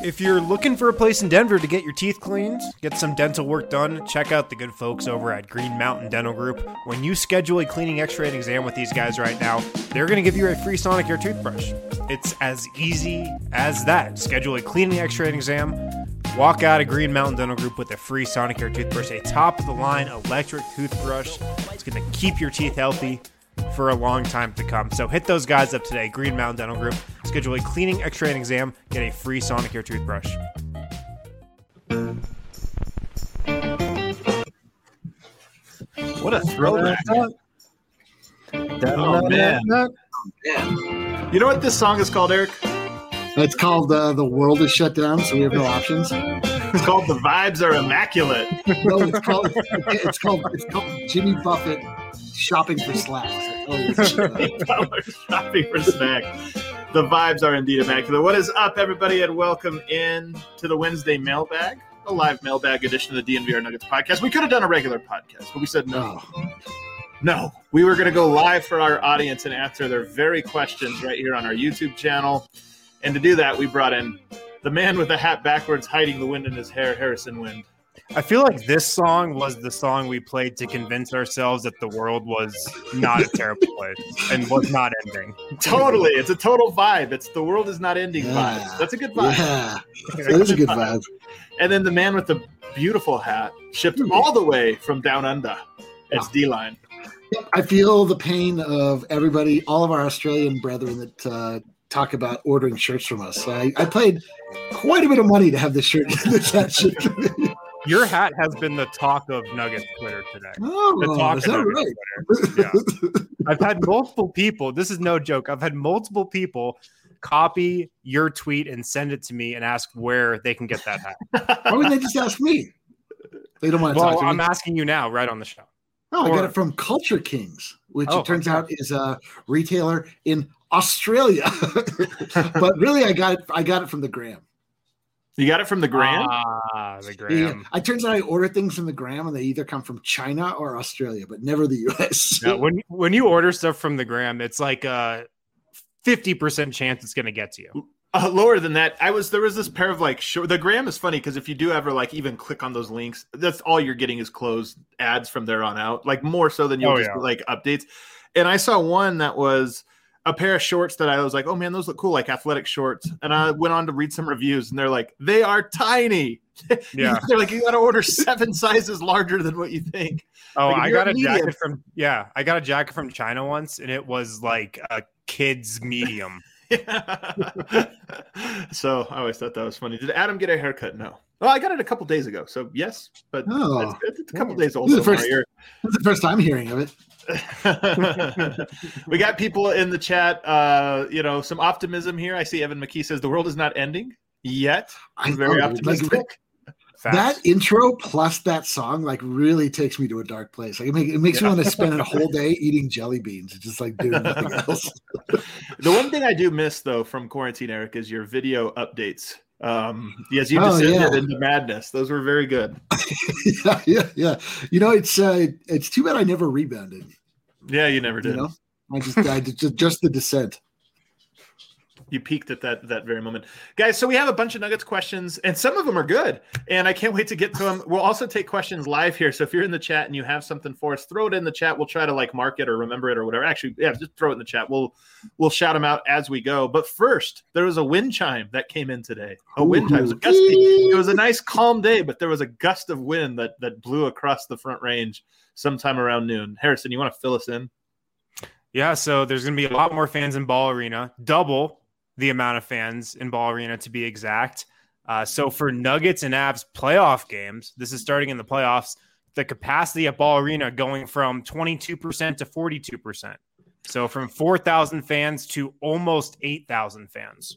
If you're looking for a place in Denver to get your teeth cleaned, get some dental work done, check out the good folks over at Green Mountain Dental Group. When you schedule a cleaning, x-ray, and exam with these guys right now, they're going to give you a free Sonicare toothbrush. It's as easy as that. Schedule a cleaning, x-ray, and exam. Walk out of Green Mountain Dental Group with a free Sonicare toothbrush, a top-of-the-line electric toothbrush. It's going to keep your teeth healthy for a long time to come. So hit those guys up today, Green Mountain Dental Group. Schedule a cleaning, x-ray, and exam. Get a free Sonicare toothbrush. What a throwback. Oh, man. You know what this song is called, Eric? It's called The World is Shut Down, so we have no options. It's called The Vibes Are Immaculate. No, it's called Jimmy Buffett Shopping for Slacks. Shopping for snacks. The vibes are indeed immaculate. What is up, everybody, and welcome in to the Wednesday mailbag, a live mailbag edition of the DNVR Nuggets podcast. We could have done a regular podcast, but we said no. No, we were going to go live for our audience and answer their very questions right here on our YouTube channel. And to do that, we brought in the man with the hat backwards, hiding the wind in his hair, Harrison Wind. I feel like this song was the song we played to convince ourselves that the world was not a terrible place and was not ending. Totally. It's a total vibe. It's the world is not ending vibe. That's a good vibe. Yeah, that is a good vibe. And then the man with the beautiful hat shipped all the way from down under. It's D-Line. I feel the pain of everybody, all of our Australian brethren that talk about ordering shirts from us. I paid quite a bit of money to have this shirt. This hat shipped. Your hat has been the talk of Nuggets Twitter today. Oh, the talk is of that Nuggets right? Twitter. Yeah. I've had multiple people. This is no joke. I've had multiple people copy your tweet and send it to me and ask where they can get that hat. Why would they just ask me? They don't want to talk to me. I'm asking you now, right on the show. Oh, I got it from Culture Kings, which it turns out is a retailer in Australia. But really, I got it from the Gram. You got it from the Gram? The Gram. Yeah. It turns out I order things from the Gram, and they either come from China or Australia, but never the U.S. Yeah, when you order stuff from the Gram, it's like a 50% chance it's going to get to you. Lower than that. There was this pair of the Gram is funny because if you do ever even click on those links, that's all you're getting is closed ads from there on out, more so than you'll updates. And I saw one that was a pair of shorts that I was like, oh man, those look cool, like athletic shorts. And I went on to read some reviews and they're like, they are tiny. Yeah. They're like, you got to order 7 sizes larger than what you think. Oh, I got a jacket from China once and it was like a kid's medium. So I always thought that was funny. Did Adam get a haircut? No. Well, I got it a couple days ago. So yes, but it's a couple days old. This is the first time hearing of it. We got people in the chat. Some optimism here. I see Evan McKee says the world is not ending yet. I'm very optimistic. That intro plus that song really takes me to a dark place. It makes me want to spend a whole day eating jelly beans and just doing nothing else. The one thing I do miss though from quarantine, Eric, is your video updates. As you descended into madness, those were very good. yeah. It's too bad I never rebounded. Yeah, you never did. I just the descent. You peaked at that very moment. Guys, so we have a bunch of Nuggets questions, and some of them are good, and I can't wait to get to them. We'll also take questions live here, so if you're in the chat and you have something for us, throw it in the chat. We'll try to mark it or remember it or whatever. Actually, yeah, just throw it in the chat. We'll shout them out as we go. But first, there was a wind chime that came in today. A wind chime. It was a gusty. It was a nice, calm day, but there was a gust of wind that blew across the Front Range sometime around noon. Harrison, you want to fill us in? Yeah, so there's going to be a lot more fans in Ball Arena, double the amount of fans in Ball Arena to be exact. So for Nuggets and Avs playoff games, this is starting in the playoffs, the capacity at Ball Arena going from 22% to 42%. So from 4,000 fans to almost 8,000 fans.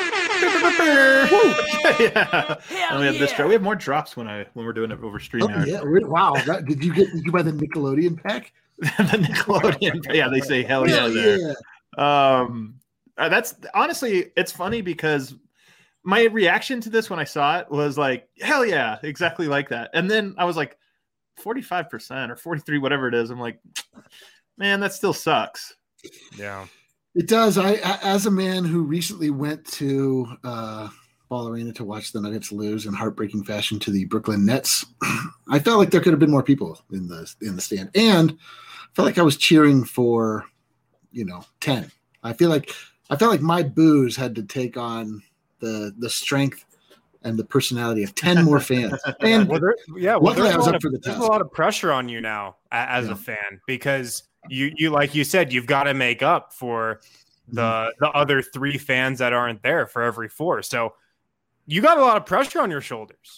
Yeah. And we have this drop. We have more drops when we're doing it over stream. Yeah. Wow. Did you buy the Nickelodeon pack? The Nickelodeon. Yeah, they say hell yeah there. That's honestly, it's funny because my reaction to this when I saw it was like, hell yeah, exactly like that. And then I was like, 45% or 43, whatever it is. I'm like, man, that still sucks. Yeah, it does. I, as a man who recently went to Ball Ball Arena to watch the Nuggets lose in heartbreaking fashion to the Brooklyn Nets. I felt like there could have been more people in the stand, and I felt like I was cheering for, 10. I felt like my boos had to take on the strength and the personality of 10 more fans. And luckily I was up for the task. There's a lot of pressure on you now as a fan, because you like you said, you've got to make up for the other 3 fans that aren't there for every 4. So you got a lot of pressure on your shoulders.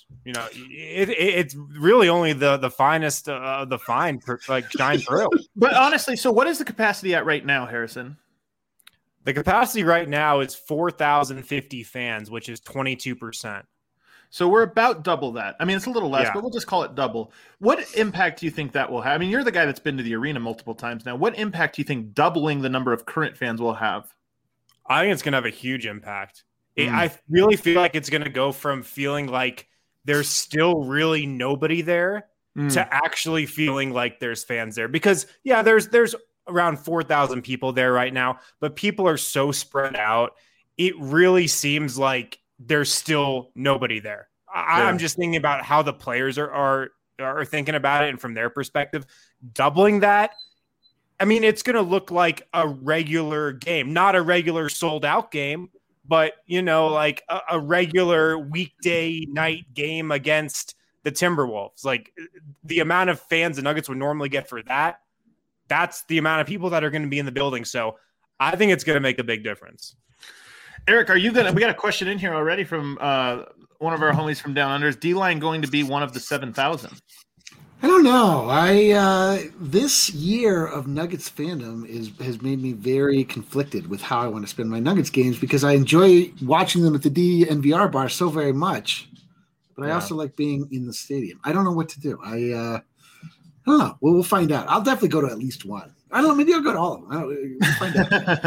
It's really only the finest of the fine shine through. But honestly, so what is the capacity at right now, Harrison? The capacity right now is 4,050 fans, which is 22%. So we're about double that. I mean, it's a little less, but we'll just call it double. What impact do you think that will have? I mean, you're the guy that's been to the arena multiple times now. What impact do you think doubling the number of current fans will have? I think it's going to have a huge impact. I really feel like it's going to go from feeling like there's still really nobody there to actually feeling like there's fans there. Because, there's around 4,000 people there right now, but people are so spread out. It really seems like there's still nobody there. I'm just thinking about how the players are thinking about it, and from their perspective, doubling that, I mean, it's going to look like a regular game, not a regular sold out game, but, like a regular weekday night game against the Timberwolves. Like, the amount of fans the Nuggets would normally get for that, that's the amount of people that are going to be in the building. So I think it's going to make a big difference. Eric, we got a question in here already from one of our homies from Down Under. Is D-Line going to be one of the 7,000? I don't know. This year of Nuggets fandom has made me very conflicted with how I want to spend my Nuggets games, because I enjoy watching them at the DNVR bar so very much, but I also like being in the stadium. I don't know what to do. I don't know. We'll find out. I'll definitely go to at least one. I don't know. Maybe I'll go to all of them. We'll find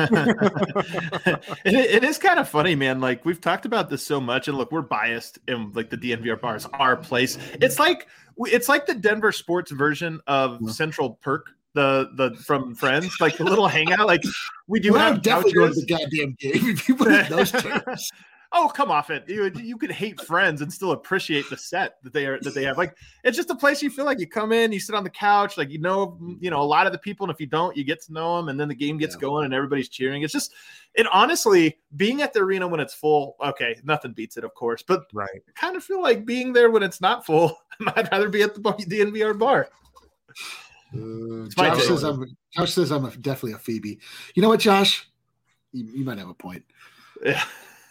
out. It is kind of funny, man. Like, we've talked about this so much, and look, we're biased, and like the DNVR bar is our place. It's like the Denver sports version of Central Perk, the from Friends, like the little hangout. Like, we do have definitely go to the goddamn game if you put it in those terms. Oh, come off it. You could hate Friends and still appreciate the set that they have. Like, it's just a place you feel like you come in, you sit on the couch, like, a lot of the people, and if you don't, you get to know them, and then the game gets going and everybody's cheering. It's just, honestly, being at the arena when it's full, okay, nothing beats it, of course, but I kind of feel like being there when it's not full. I'd rather be at the DNVR bar. Josh says I'm definitely a Phoebe. You know what, Josh? You might have a point. Yeah.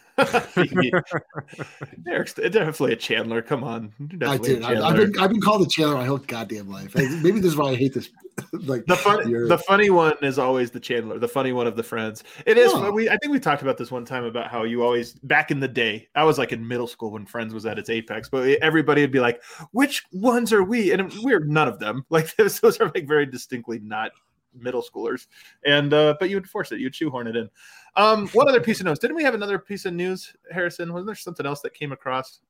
Eric's definitely a Chandler. Come on, I've been called a Chandler my whole goddamn life. Maybe this is why I hate this. Like, the funny one is always the Chandler, the funny one of the Friends. It is. I think we talked about this one time about how you always, back in the day, I was like in middle school when Friends was at its apex, but everybody would be like, "Which ones are we?" And we're none of them. Like, those are like very distinctly not middle schoolers, and but you would force it, you'd shoehorn it in. One other piece of news. Didn't we have another piece of news, Harrison? Wasn't there something else that came across?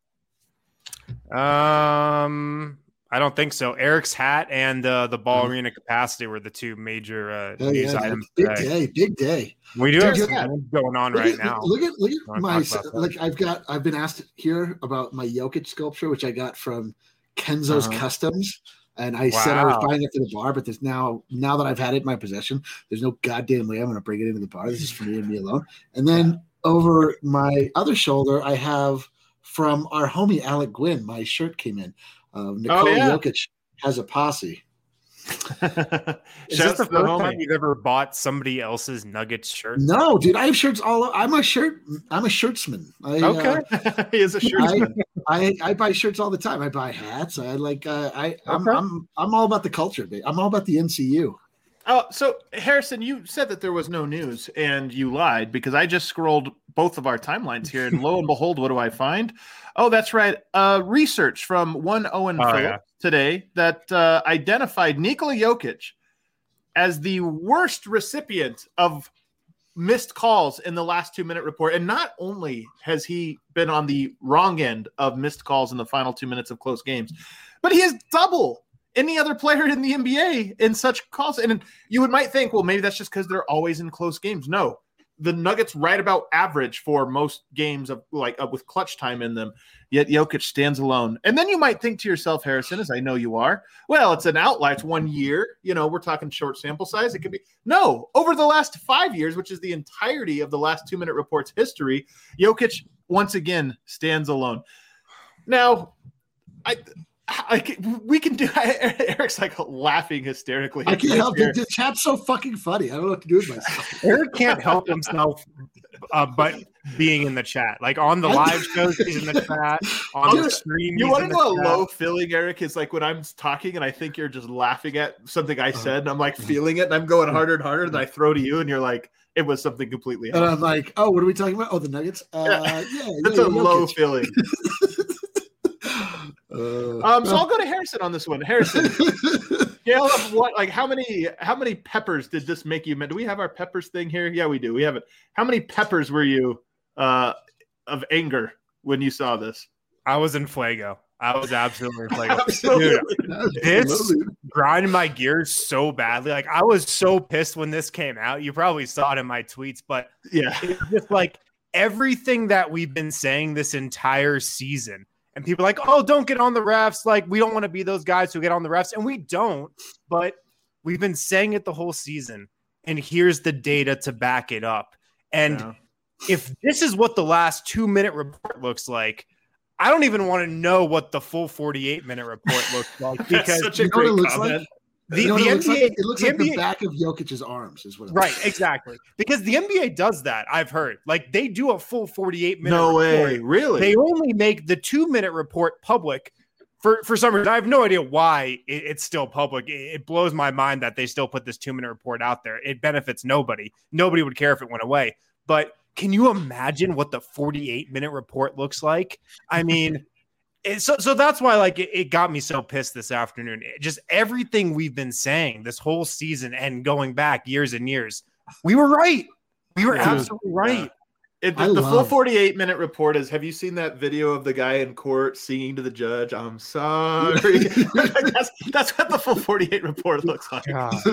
I don't think so. Eric's hat and the Ball Arena capacity were the two major news items. Big day. We do have something going on now. Look at my, like, I've been asked here about my Jokic sculpture, which I got from Kenzo's Customs. And I said I was buying it for the bar, but there's now that I've had it in my possession, there's no goddamn way I'm going to bring it into the bar. This is for me and me alone. And then over my other shoulder, I have from our homie Alec Gwynn, my shirt came in. Nikola Jokic has a posse. Is this the first time you've ever bought somebody else's Nuggets shirt? No, dude, I have shirts I'm a shirtsman. He is a shirtsman. I buy shirts all the time. I buy hats. I'm all about the culture. I'm all about the NCU. Oh, so Harrison, you said that there was no news, and you lied, because I just scrolled both of our timelines here, and lo and behold, what do I find? Oh, that's right. Research from one Owen Phillips today that identified Nikola Jokic as the worst recipient of missed calls in the last 2-minute report. And not only has he been on the wrong end of missed calls in the final 2 minutes of close games, but he has double any other player in the NBA in such calls. And you might think, well, maybe that's just because they're always in close games. No, the Nuggets right about average for most games of with clutch time in them. Yet Jokic stands alone. And then you might think to yourself, Harrison, as I know you are, well, it's an outlier. It's 1 year. We're talking short sample size. It could be no over the last 5 years, which is the entirety of the last 2 Minute Report's history. Jokic once again stands alone. Now, we can do. Eric's like laughing hysterically. I can't help it. The chat's so fucking funny. I don't know what to do with myself. Eric can't help himself, but being in the chat, like on the live shows, he's in the chat. On the stream, you want to know a low feeling, Eric? Is like when I'm talking and I think you're just laughing at something I said, and I'm like feeling it, and I'm going harder and harder, and I throw to you, and you're like, it was something completely else. And I'm like, oh, what are we talking about? Oh, the Nuggets. That's a low feeling. So I'll go to Harrison on this one. Harrison, scale of what? Like how many peppers did this make you? Do we have our peppers thing here? Yeah, we do. We have it. How many peppers were you of anger when you saw this? I was in fuego. I was absolutely in fuego. Dude, this grinded my gears so badly. Like I was so pissed when this came out. You probably saw it in my tweets, but yeah, it's just like everything that we've been saying this entire season. And people are like, oh, don't get on the refs. Like, we don't want to be those guys who get on the refs. And we don't. But we've been saying it the whole season. And here's the data to back it up. And if this is what the last 2 Minute Report looks like, I don't even want to know what the full 48-minute report looks like. Because such a great comment. The NBA, it looks like the back of Jokic's arms is what. Right, exactly. Because the NBA does that. I've heard. Like they do a full 48-minute. No way, really? They only make the 2 Minute Report public for some reason. I have no idea why it's still public. It blows my mind that they still put this 2 Minute Report out there. It benefits nobody. Nobody would care if it went away. But can you imagine what the 48-minute report looks like? I mean. So that's why it got me so pissed this afternoon. Just everything we've been saying this whole season and going back years and years, we were right. We were absolutely right. The full 48-minute report is, have you seen that video of the guy in court singing to the judge, I'm sorry? that's what the full 48 report looks like.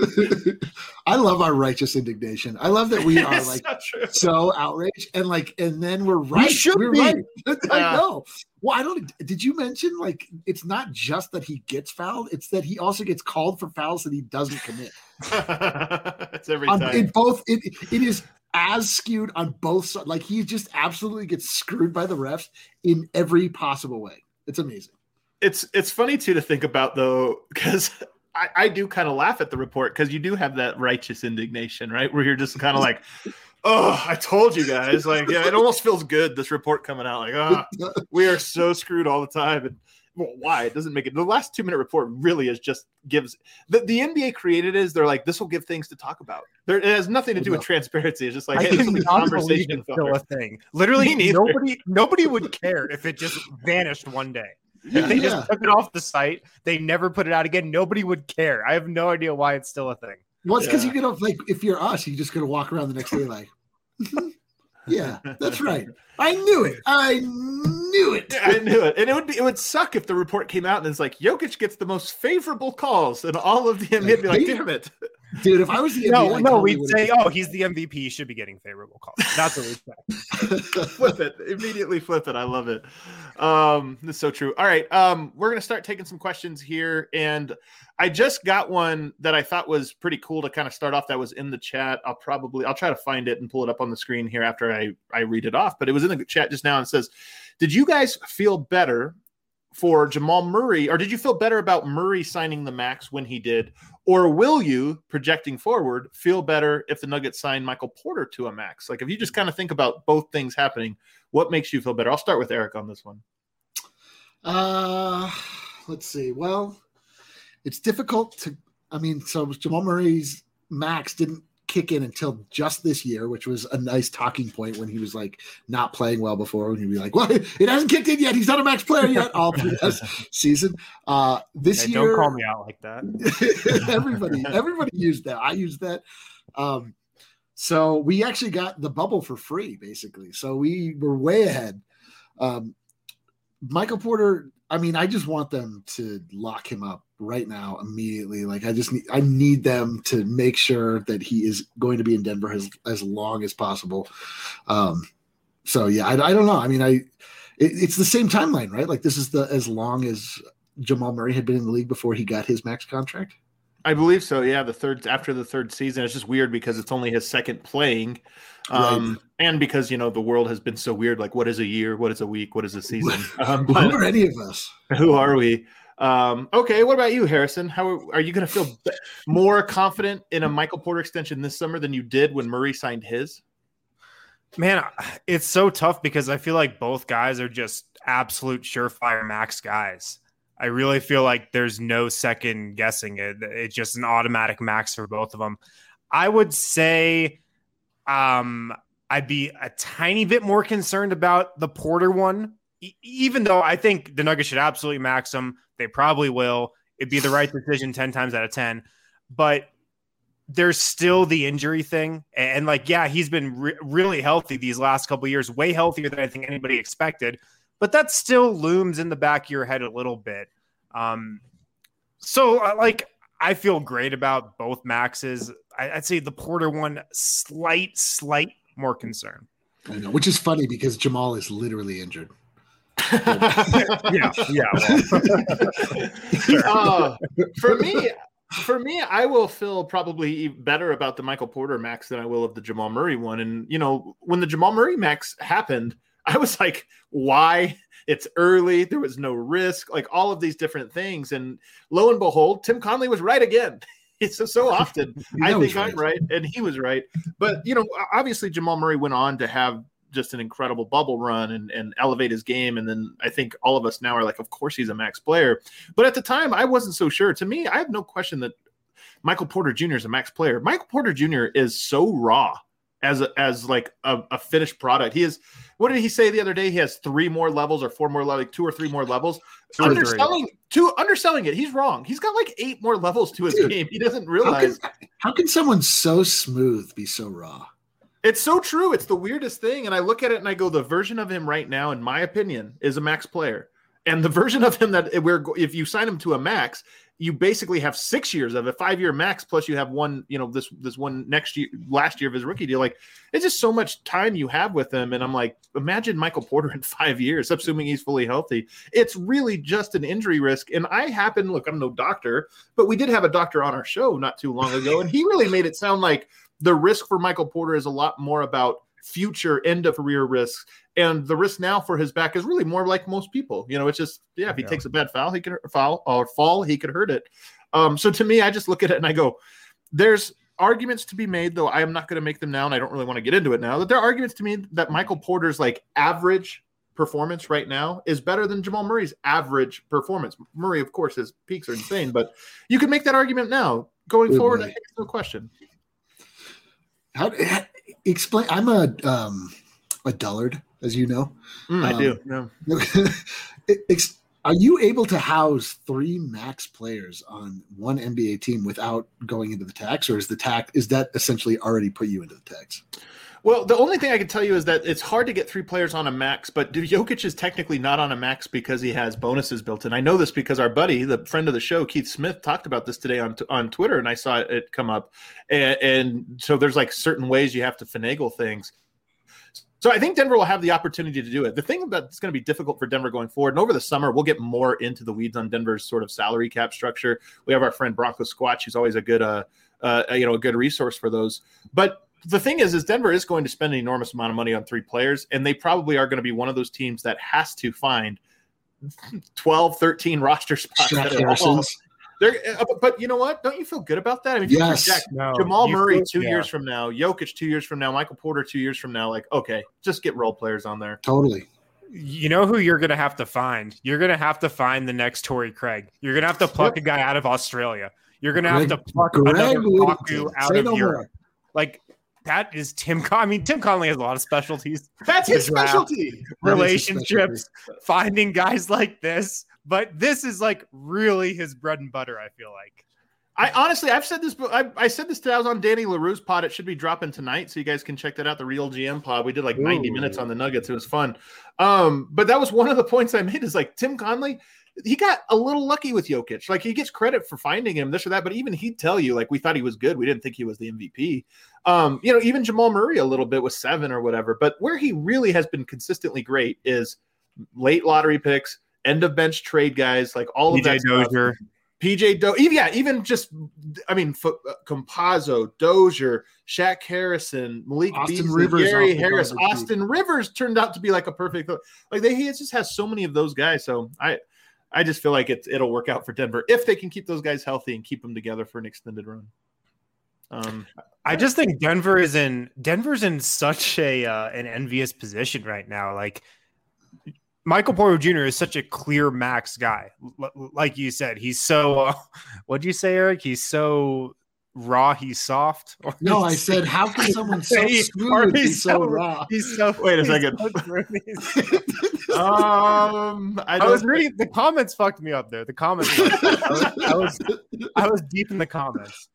I love our righteous indignation. I love that we are so outraged and then we're right. We're right. I know. Well, did you mention it's not just that he gets fouled, it's that he also gets called for fouls that he doesn't commit. It's every time. It is as skewed on both sides. Like he just absolutely gets screwed by the refs in every possible way. It's amazing. It's funny too to think about though, because I do kind of laugh at the report because you do have that righteous indignation, right? Where you're just kind of like, oh, I told you guys. Like, yeah, it almost feels good, this report coming out. Like, we are so screwed all the time. And why? It doesn't make it. The last 2 Minute Report really is just gives the NBA created is they're like, this will give things to talk about. It has nothing to do with transparency. It's just like, hey, this will be conversation. Still a thing. Literally, nobody would care if it just vanished one day. If they just took it off the site, they never put it out again. Nobody would care. I have no idea why it's still a thing. Well, it's because you get if you're us, you're just gonna walk around the next day like, yeah, that's right. I knew it. I knew it. And it would suck if the report came out and it's like Jokic gets the most favorable calls and all of the NBA be like, damn it. Dude, if I was the NBA, we'd say, he's the MVP. He should be getting favorable calls. That's what we'd say. Flip it. Immediately flip it. I love it. That's so true. All right. We're going to start taking some questions here. And I just got one that I thought was pretty cool to kind of start off that was in the chat. I'll try to find it and pull it up on the screen here after I read it off. But it was in the chat just now and says, did you guys feel better for Jamal Murray, or did you feel better about Murray signing the max when he did? Or will you, projecting forward, feel better if the Nuggets sign Michael Porter to a max? Like, if you just kind of think about both things happening, what makes you feel better? I'll start with Eric on this one. Let's see. Well, it's difficult to, so Jamal Murray's max didn't kick in until just this year, which was a nice talking point when he was like not playing well before, and he'd be like, well, it hasn't kicked in yet, he's not a max player yet all through this season. This year, don't call me out like that. everybody used that. I used that. So we actually got the bubble for free, basically. So we were way ahead. Michael Porter, I just want them to lock him up right now immediately. Like I need them to make sure that he is going to be in Denver as long as possible. So yeah, I don't know. I mean, it's the same timeline, right? Like this is as long as Jamal Murray had been in the league before he got his max contract. I believe so. Yeah, after the third season. It's just weird because it's only his second playing, right. And because the world has been so weird. Like, what is a year? What is a week? What is a season? Who are any of us? Who are we? Okay, what about you, Harrison? How are you going to feel more confident in a Michael Porter extension this summer than you did when Murray signed his? Man, it's so tough because I feel like both guys are just absolute surefire max guys. I really feel like there's no second guessing it. It's just an automatic max for both of them. I would say I'd be a tiny bit more concerned about the Porter one, even though I think the Nuggets should absolutely max him. They probably will. It'd be the right decision 10 times out of 10. But there's still the injury thing. And he's been really healthy these last couple of years, way healthier than I think anybody expected. But that still looms in the back of your head a little bit. So I feel great about both maxes. I'd say the Porter one, slight more concern. I know, which is funny because Jamal is literally injured. Yeah. Well, for me, I will feel probably better about the Michael Porter max than I will of the Jamal Murray one. And when the Jamal Murray max happened, I was like, why? It's early. There was no risk, like all of these different things. And lo and behold, Tim Connelly was right again. It's so often I think I'm right and he was right. But, obviously Jamal Murray went on to have just an incredible bubble run and elevate his game. And then I think all of us now are like, of course he's a max player. But at the time, I wasn't so sure. To me, I have no question that Michael Porter Jr. is a max player. Michael Porter Jr. is so raw as like a finished product. He is, what did he say the other day? He has 3 more levels or 4 more levels, like 2 or 3 more levels. Underselling it. He's wrong. He's got like 8 more levels to his game. He doesn't realize. How can someone so smooth be so raw? It's so true. It's the weirdest thing. And I look at it and I go, the version of him right now, in my opinion, is a max player. And the version of him that if you sign him to a max, you basically have 6 years of a 5-year max, plus you have one, this one last year of his rookie deal. Like, it's just so much time you have with him. And I'm like, imagine Michael Porter in 5 years, assuming he's fully healthy. It's really just an injury risk. And look, I'm no doctor, but we did have a doctor on our show not too long ago. And he really made it sound like the risk for Michael Porter is a lot more about future end of career risks. And the risk now for his back is really more like most people. It's just, if he takes a bad foul, he could fall, he could hurt it. So to me, I just look at it and I go, there's arguments to be made, though I am not going to make them now, and I don't really want to get into it now, that there are arguments to me that Michael Porter's like average performance right now is better than Jamal Murray's average performance. Murray, of course, his peaks are insane, but you can make that argument now. Going forward, I think it's no question. How explain? I'm a dullard, as you know. I do. Yeah. Are you able to house 3 max players on one NBA team without going into the tax, or is that essentially already put you into the tax? Well, the only thing I can tell you is that it's hard to get 3 players on a max, but Jokic is technically not on a max because he has bonuses built in. I know this because our buddy, the friend of the show, Keith Smith, talked about this today on Twitter, and I saw it come up. And so there's like certain ways you have to finagle things. So I think Denver will have the opportunity to do it. The thing that's going to be difficult for Denver going forward, and over the summer, we'll get more into the weeds on Denver's sort of salary cap structure. We have our friend Bronco Squatch, who's always a good resource for those. But the thing is Denver is going to spend an enormous amount of money on 3 players, and they probably are going to be one of those teams that has to find 12, 13 roster spots. But you know what? Don't you feel good about that? I mean, yes. Jamal Murray 2 years from now, Jokic 2 years from now, Michael Porter 2 years from now, like, okay, just get role players on there. Totally. You know who you're going to have to find? You're going to have to find the next Torrey Craig. You're going to have to pluck a guy out of Australia. You're going to have to pluck another Kaku out of Europe. Like, that is Tim Connelly. I mean, Tim Connelly has a lot of specialties. That's his specialty. Relationships, finding guys like this. But this is like really his bread and butter, I feel like. I've said this. I said this today. I was on Danny LaRue's pod. It should be dropping tonight, so you guys can check that out. The Real GM pod. We did like 90 minutes on the Nuggets. It was fun. But that was one of the points I made. Is like Tim Connelly. he got a little lucky with Jokic. Like, he gets credit for finding him, this or that, but even he'd tell you, like, we thought he was good. We didn't think he was the MVP. Even Jamal Murray a little bit with 7 or whatever. But where he really has been consistently great is late lottery picks, end of bench trade guys, like all of that Dozier. stuff. PJ Dozier, even just, Compazzo, Dozier, Shaq Harrison, Malik Beasley, Gary Harris, Austin Rivers turned out to be like a perfect, he just has so many of those guys. So I just feel like it'll work out for Denver if they can keep those guys healthy and keep them together for an extended run. I just think Denver's in such an envious position right now. Like, Michael Porter Jr. is such a clear max guy. Like you said, he's so what'd you say, Eric? He's so raw, he's soft. No, I said, how can someone so smooth be so raw? He's so wait a second. I was reading the comments, fucked me up there. The comments, I was deep in the comments.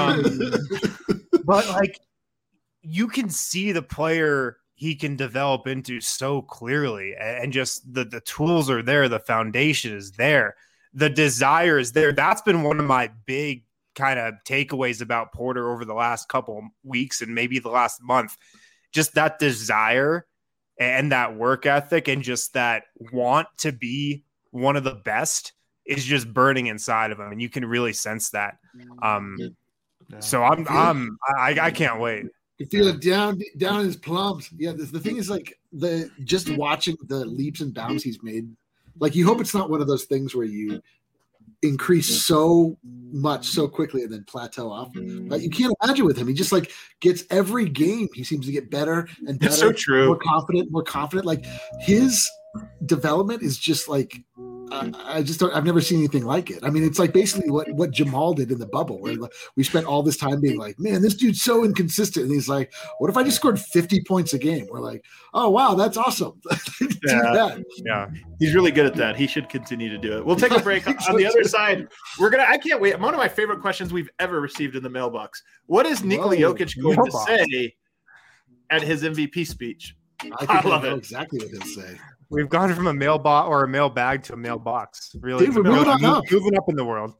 But like, you can see the player he can develop into so clearly, and just the tools are there. The foundation is there. The desire is there. That's been one of my big kind of takeaways about Porter over the last couple weeks and maybe the last month. Just that desire and that work ethic and just that want to be one of the best is just burning inside of him. And you can really sense that. So I can't wait. You feel it down in his plums. Yeah, the thing is, like, just watching the leaps and bounds he's made. Like, you hope it's not one of those things where you increase so much so quickly and then plateau off. But you can't imagine with him. He just like gets every game. He seems to get better and better. It's so true. More confident. Like, his development is just like. I've never seen anything like it. I mean, it's like basically what Jamal did in the bubble, where we spent all this time being like, man, this dude's so inconsistent. And he's like, what if I just scored 50 points a game? We're like, oh, wow, that's awesome. Yeah. He's really good at that. He should continue to do it. We'll take a break. On the other side, I can't wait. One of my favorite questions we've ever received in the mailbox. What is Nikola Jokic going to say at his MVP speech? I love it. Exactly what he'll say. We've gone from a mailbot or a mailbag to a mailbox. Really, dude, moving up in the world.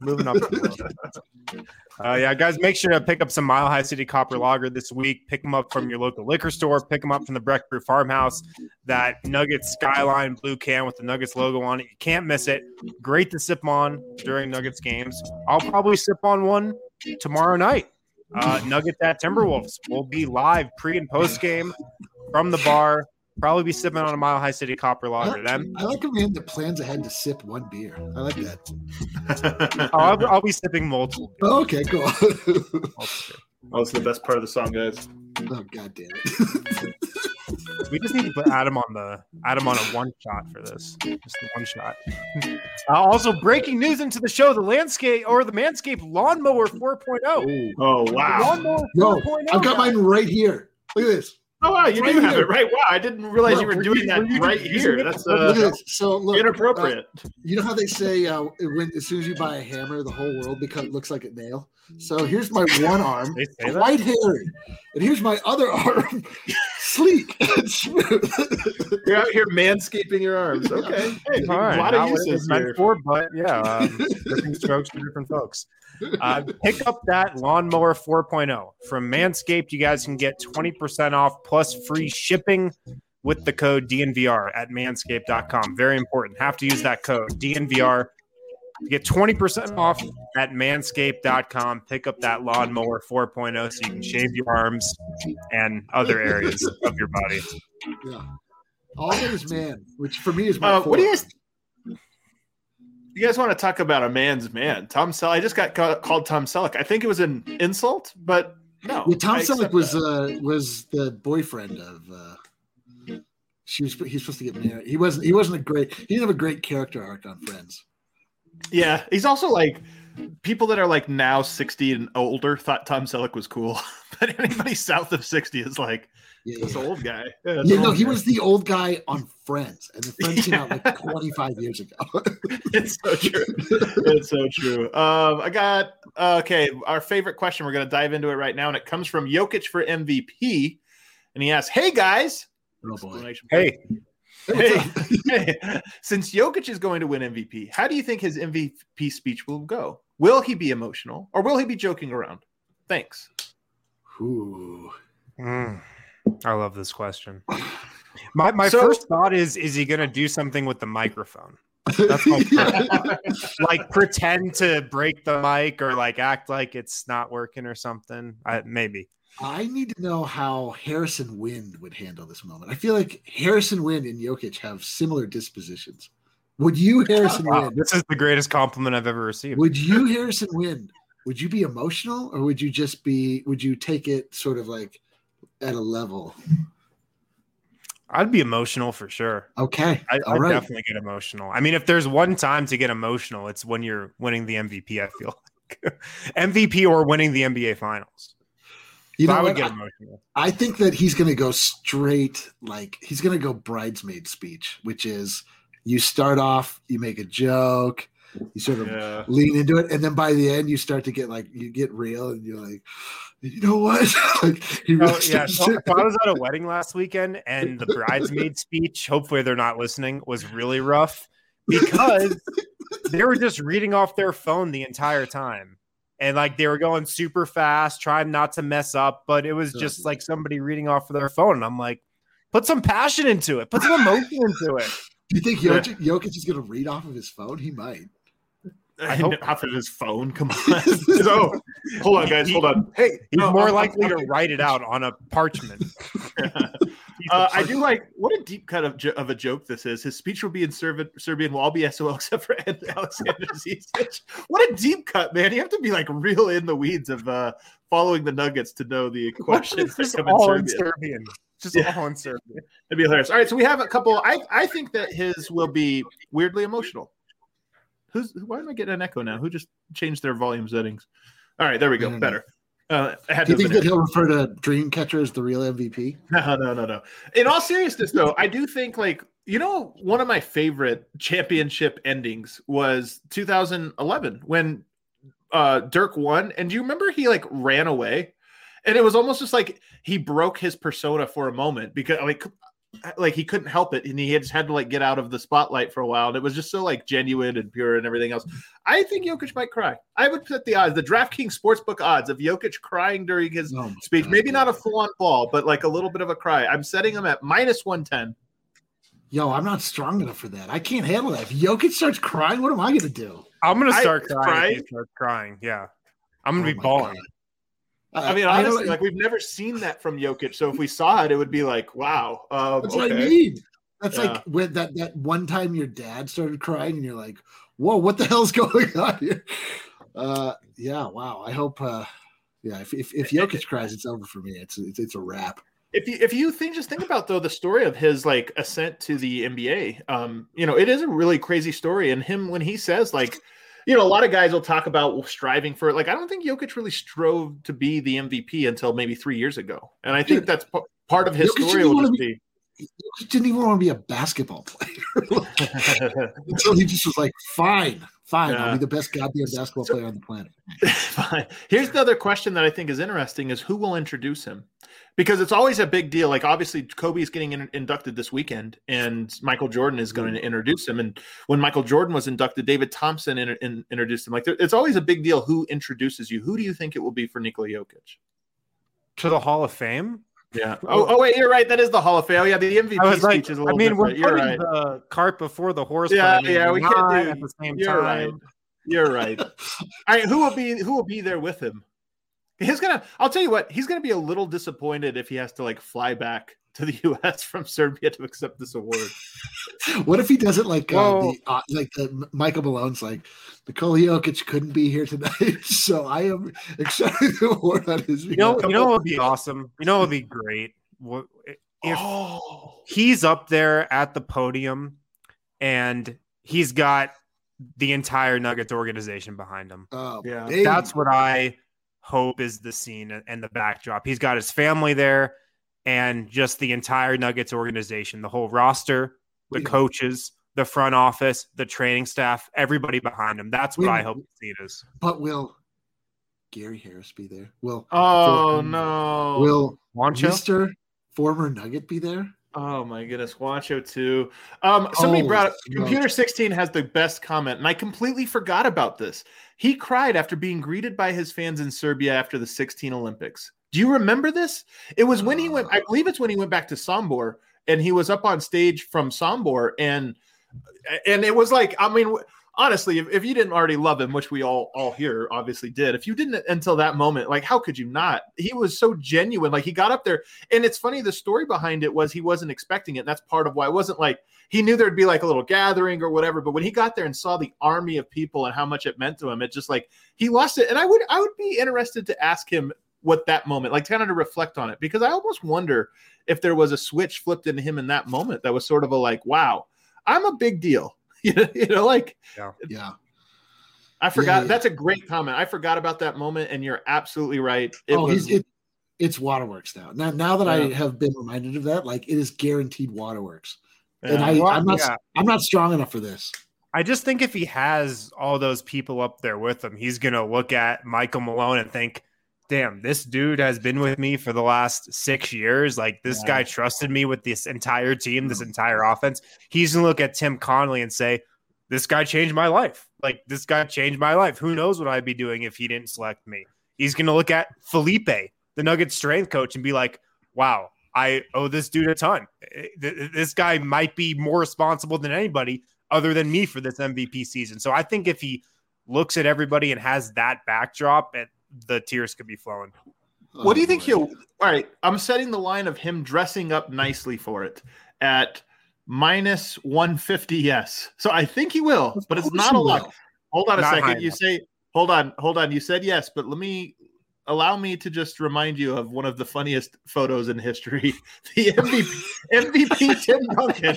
Yeah, guys, make sure to pick up some Mile High City Copper Lager this week. Pick them up from your local liquor store. Pick them up from the Breck Brew Farmhouse. That Nuggets Skyline blue can with the Nuggets logo on it. You can't miss it. Great to sip on during Nuggets games. I'll probably sip on one tomorrow night. Nuggets at Timberwolves. We'll be live pre and post game from the bar. Probably be sipping on a Mile High City Copper Lager. I like a man that plans ahead to sip one beer. I like that. I'll be sipping multiple beers. Oh, okay, cool. It's the best part of the song, guys. Oh, God damn it. We just need to put Adam on a one shot for this. Just the one shot. Also, breaking news into the show: the Manscaped Lawnmower 4.0. Oh wow! Lawnmower 4.0. I've got mine right here. Look at this. Oh wow, you do have it right. Wow, I didn't realize you were doing that right here. That's so look, inappropriate. You know how they say as soon as you buy a hammer, the whole world looks like a nail. So here's my one arm, quite hairy, and here's my other arm, sleek and smooth. You're out here manscaping your arms. Okay, hey, all right. A lot of uses here. But yeah, different strokes for different folks. Pick up that Lawnmower 4.0 from Manscaped. You guys can get 20% off plus free shipping with the code DNVR at manscaped.com. Very important. Have to use that code DNVR. You get 20% off at manscaped.com. Pick up that Lawnmower 4.0 so you can shave your arms and other areas of your body. Yeah. All of it is man, which for me is my what do you guys want to talk about a man's man? Tom Selleck. I just got called Tom Selleck. I think it was an insult, but no. Yeah, Tom Selleck was the boyfriend of he's supposed to get married. He didn't have a great character arc on Friends. Yeah, he's also like people that are like now 60 and older thought Tom Selleck was cool, but anybody south of 60 is like this old guy. He was the old guy on Friends, and the Friends came out like 25 years ago. It's so true. It's so true. I got our favorite question. We're going to dive into it right now, and it comes from Jokic for MVP, and he asks, "Hey guys, oh boy. Hey, Hey, since Jokic is going to win MVP, how do you think his MVP speech will go? Will he be emotional or will he be joking around? Thanks. Ooh. I love this question. My first thought is he going to do something with the microphone? That's like pretend to break the mic or like act like it's not working or something. Maybe. I need to know how Harrison Wind would handle this moment. I feel like Harrison Wind and Jokic have similar dispositions. Would you, Harrison Wind? This is the greatest compliment I've ever received. Would you, Harrison Wind? Would you be emotional, or would you take it sort of like at a level? I'd be emotional for sure. Okay. I'd definitely get emotional. I mean, if there's one time to get emotional, it's when you're winning the MVP, I feel like. MVP or winning the NBA Finals. I would get emotional. I think that he's going to go straight, like he's going to go bridesmaid speech, which is you start off, you make a joke, you sort of lean into it, and then by the end you start to get you get real, and you're like, you know what? Like he really So I was at a wedding last weekend, and the bridesmaid speech, hopefully they're not listening, was really rough because they were just reading off their phone the entire time. And like they were going super fast, trying not to mess up, but it was just like somebody reading off of their phone. And I'm like, put some passion into it, put some emotion into it. Do you think Jokic is going to read off of his phone? He might. I hope off of his phone. Come on. So, hold on, guys. Hold on. Hey, he's more likely to write it out on a parchment. I do like what a deep cut of a joke this is. His speech will be in Serbian, will all be SOL except for Alexander Zizic. What a deep cut, man! You have to be like real in the weeds of following the Nuggets to know the questions that come in Serbian. All in Serbian. It'd be hilarious. All right, so we have a couple. I think that his will be weirdly emotional. Why am I getting an echo now? Who just changed their volume settings? All right, there we go. Better. Do you think that he'll refer to Dreamcatcher as the real MVP? No. In all seriousness, though, I do think one of my favorite championship endings was 2011 when Dirk won. And do you remember he ran away? And it was almost just like he broke his persona for a moment because he couldn't help it, and he just had to get out of the spotlight for a while. And it was just so genuine and pure and everything else. I think Jokic might cry. I would put the DraftKings Sportsbook odds of Jokic crying during his speech. Maybe not a full-on ball, but a little bit of a cry. I'm setting him at -110. Yo, I'm not strong enough for that. I can't handle that. If Jokic starts crying, what am I going to do? I'm going to start crying. If he starts crying, yeah. I'm going to be bawling. God. I mean, honestly, we've never seen that from Jokic. So if we saw it, it would be wow. That's what I mean. That's like when that one time your dad started crying and you're like, whoa, what the hell's going on here? Yeah, wow. I hope, if Jokic cries, it's over for me. It's a wrap. If you just think about though the story of his ascent to the NBA, it is a really crazy story. And him when he says a lot of guys will talk about striving for I don't think Jokic really strove to be the MVP until maybe 3 years ago. And I think that's part of his story will just be. He didn't even want to be a basketball player. Until he just was fine. I'll be the best goddamn basketball player on the planet. Fine. Here's the other question that I think is interesting is who will introduce him? Because it's always a big deal. Obviously, Kobe's getting inducted this weekend, and Michael Jordan is going to introduce him. And when Michael Jordan was inducted, David Thompson introduced him. It's always a big deal who introduces you. Who do you think it will be for Nikola Jokic? To the Hall of Fame? Yeah. Oh, wait, you're right. That is the Hall of Fame. Oh, yeah, the MVP speech is a little different. We're putting the cart before the horse. Yeah, we can't do at the same time. Right. You're right. All right, who will be there with him? I'll tell you what, he's gonna be a little disappointed if he has to fly back to the U.S. from Serbia to accept this award. What if he does it the Michael Malone's Nikola Jokic couldn't be here tonight, so I am accepting the award on his behalf. You know what would be awesome? You know what would be great? If he's up there at the podium and he's got the entire Nuggets organization behind him. Oh, yeah. That's what I hope is the scene and the backdrop. He's got his family there and just the entire Nuggets organization, the whole roster, the coaches, the front office, the training staff, everybody behind him. That's what I hope the scene is. But will Gary Harris be there? No. Will Mr. Former Nugget be there? Oh my goodness, Juancho too. Somebody brought up Computer 16 has the best comment, and I completely forgot about this. He cried after being greeted by his fans in Serbia after the 16 Olympics. Do you remember this? It was when he went, I believe it's when he went back to Sombor, and he was up on stage from Sombor, and it was like, I mean, honestly, if you didn't already love him, which we all here obviously did, if you didn't until that moment, like, how could you not? He was so genuine. Like, he got up there, and it's funny, the story behind it was he wasn't expecting it. And that's part of why it wasn't like he knew there'd be like a little gathering or whatever. But when he got there and saw the army of people and how much it meant to him, it just like he lost it. And I would be interested to ask him what that moment, like, kind of to reflect on it, because I almost wonder if there was a switch flipped into him in that moment that was sort of a like, wow, I'm a big deal. You know, like, yeah. I forgot. Yeah. That's a great comment. I forgot about that moment, and you're absolutely right. It's Waterworks now. Now that I have been reminded of that, like, it is guaranteed Waterworks. And I'm not strong enough for this. I just think if he has all those people up there with him, he's gonna look at Michael Malone and think, damn, this dude has been with me for the last 6 years. Like, this guy trusted me with this entire team, this entire offense. He's going to look at Tim Connolly and say, this guy changed my life. Like, this guy changed my life. Who knows what I'd be doing if he didn't select me? He's going to look at Felipe, the Nuggets strength coach, and be like, wow, I owe this dude a ton. This guy might be more responsible than anybody other than me for this MVP season. So I think if he looks at everybody and has that backdrop, the tears could be flowing. What do you think all right, I'm setting the line of him dressing up nicely for it at minus 150. Yes. So I think he will, but it's not a lot. Hold on a second. You say, hold on. You said yes, but allow me to just remind you of one of the funniest photos in history. The MVP Tim Duncan.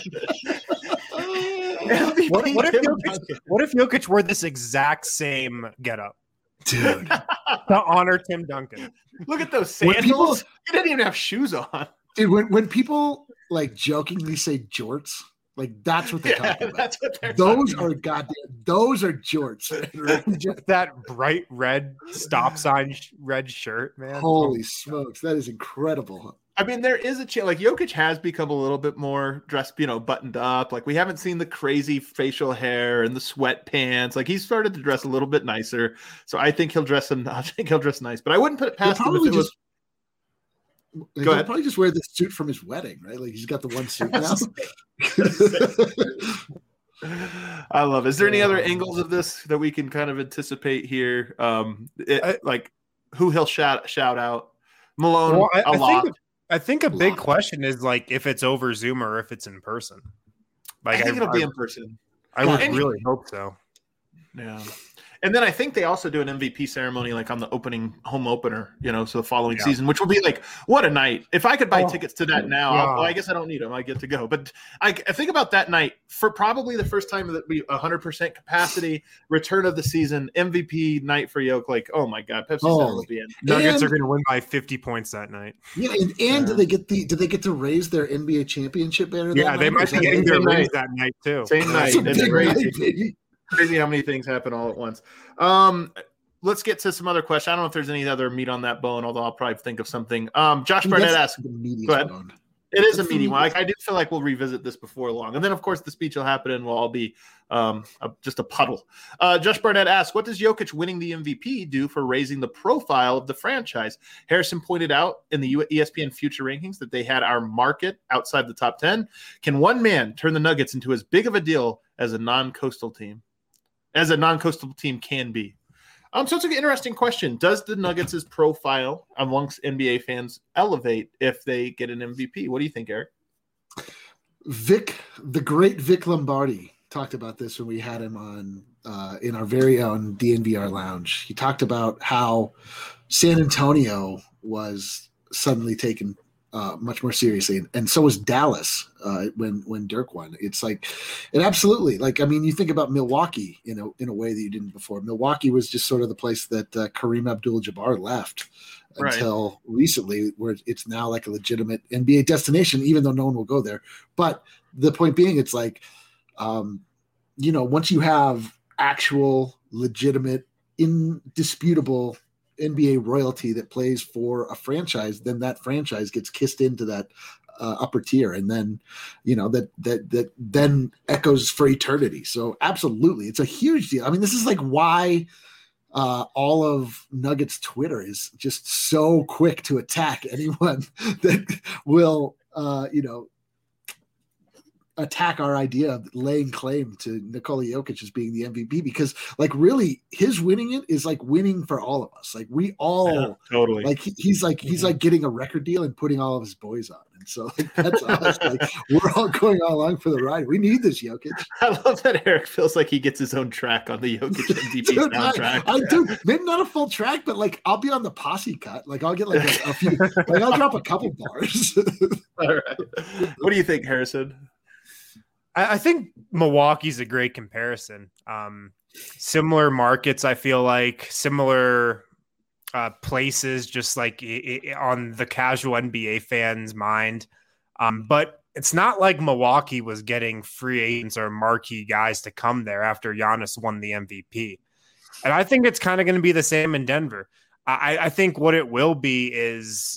What if Jokic wore this exact same getup? Dude, to honor Tim Duncan. Look at those sandals. He didn't even have shoes on. Dude, when people like jokingly say jorts, like, that's what they're talking about. That's what they're those are goddamn. Those are jorts. Just that bright red stop sign red shirt, man. Holy smokes, that is incredible. I mean, there is a chance. Like, Jokic has become a little bit more dressed, buttoned up. Like, we haven't seen the crazy facial hair and the sweatpants. Like, he's started to dress a little bit nicer. So I think he'll dress nice. But I wouldn't put it past him if it was. Go ahead. Probably just wear the suit from his wedding, right? Like, he's got the one suit now. I love it. Is there any other angles of this that we can kind of anticipate here? Like, who he'll shout out? Malone, well, I think a big question is, like, if it's over Zoom or if it's in person. Like, I think it'll be in person. I would really hope so. Yeah. And then I think they also do an MVP ceremony, like, on the home opener, so the following season, which will be like, what a night. If I could buy tickets to that now, I guess I don't need them. I get to go. But I think about that night for probably the first time that we 100% capacity, return of the season, MVP night for Yoke. Like, oh my God, Pepsi Center will be in. Nuggets are going to win by 50 points that night. Yeah, and do they get to raise their NBA championship banner? Yeah, they might be getting their raise that night too. Same night. It's crazy. Crazy how many things happen all at once. Let's get to some other questions. I don't know if there's any other meat on that bone, although I'll probably think of something. Josh Barnett asked. Go ahead. It is a meaty one. I do feel like we'll revisit this before long. And then, of course, the speech will happen and we'll all be just a puddle. Josh Barnett asked, what does Jokic winning the MVP do for raising the profile of the franchise? Harrison pointed out in the ESPN Future Rankings that they had our market outside the top 10. Can one man turn the Nuggets into as big of a deal as a non-coastal team? As a non-coastal team can be. So it's an interesting question. Does the Nuggets' profile amongst NBA fans elevate if they get an MVP? What do you think, Eric? The great Vic Lombardi talked about this when we had him on in our very own DNVR lounge. He talked about how San Antonio was suddenly taken much more seriously, and so was Dallas when Dirk won. It's like, and absolutely, like, I mean, you think about Milwaukee in a way that you didn't before. Milwaukee was just sort of the place that Kareem Abdul-Jabbar left until recently, where it's now like a legitimate NBA destination, even though no one will go there. But the point being, it's like, once you have actual, legitimate, indisputable NBA royalty that plays for a franchise, then that franchise gets kissed into that upper tier, and then that then echoes for eternity. So absolutely, it's a huge deal. I mean, this is like why all of Nuggets Twitter is just so quick to attack anyone that will attack our idea of laying claim to Nikola Jokic as being the MVP, because like really his winning it is like winning for all of us. Like we all totally like he's like getting a record deal and putting all of his boys on. And so like, that's us. Like we're all going along for the ride. We need this Jokic. I love that Eric feels like he gets his own track on the Jokic MVP soundtrack. I do. Maybe not a full track, but like I'll be on the posse cut. Like I'll get like a few, like I'll drop a couple bars. All right. What do you think, Harrison? I think Milwaukee's a great comparison. Similar markets, I feel like, similar places, just like on the casual NBA fan's mind. But it's not like Milwaukee was getting free agents or marquee guys to come there after Giannis won the MVP. And I think it's kind of going to be the same in Denver. I think what it will be is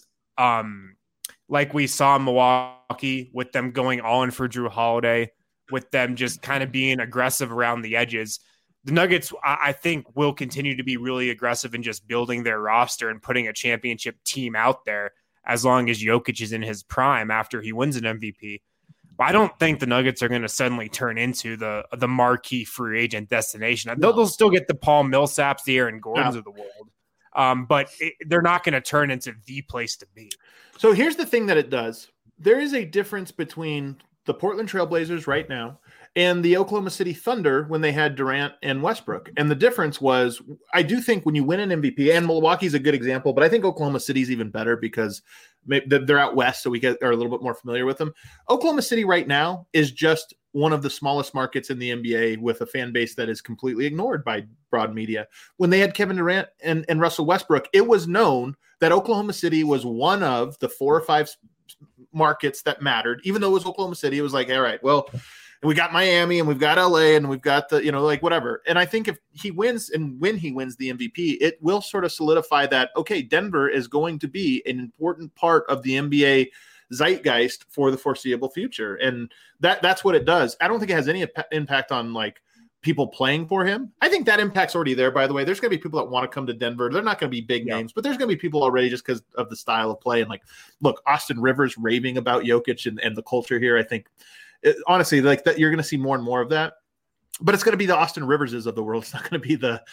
like we saw in Milwaukee with them going all in for Jrue Holiday, with them just kind of being aggressive around the edges. The Nuggets, I think, will continue to be really aggressive in just building their roster and putting a championship team out there as long as Jokic is in his prime after he wins an MVP. But I don't think the Nuggets are going to suddenly turn into the marquee free agent destination. They'll still get the Paul Millsaps, the Aaron Gordons of the world, but they're not going to turn into the place to be. So here's the thing that it does. There is a difference between the Portland Trailblazers right now and the Oklahoma City Thunder when they had Durant and Westbrook. And the difference was, I do think when you win an MVP, and Milwaukee's a good example, but I think Oklahoma City's even better because they're out west, so we are a little bit more familiar with them. Oklahoma City right now is just one of the smallest markets in the NBA with a fan base that is completely ignored by broad media. When they had Kevin Durant and Russell Westbrook, it was known that Oklahoma City was one of the 4 or 5 markets that mattered. Even though it was Oklahoma City, it was like, all right, well, we got Miami and we've got LA and we've got the, like whatever. And I think if he wins and when he wins the MVP, it will sort of solidify that, okay, Denver is going to be an important part of the NBA zeitgeist for the foreseeable future. And that's what it does. I don't think it has any impact on like people playing for him. I think that impact's already there, by the way. There's going to be people that want to come to Denver. They're not going to be big names, but there's going to be people already just because of the style of play. And like, look, Austin Rivers raving about Jokic and the culture here. I think honestly, like that, you're going to see more and more of that, but it's going to be the Austin Riverses of the world. It's not going to be the,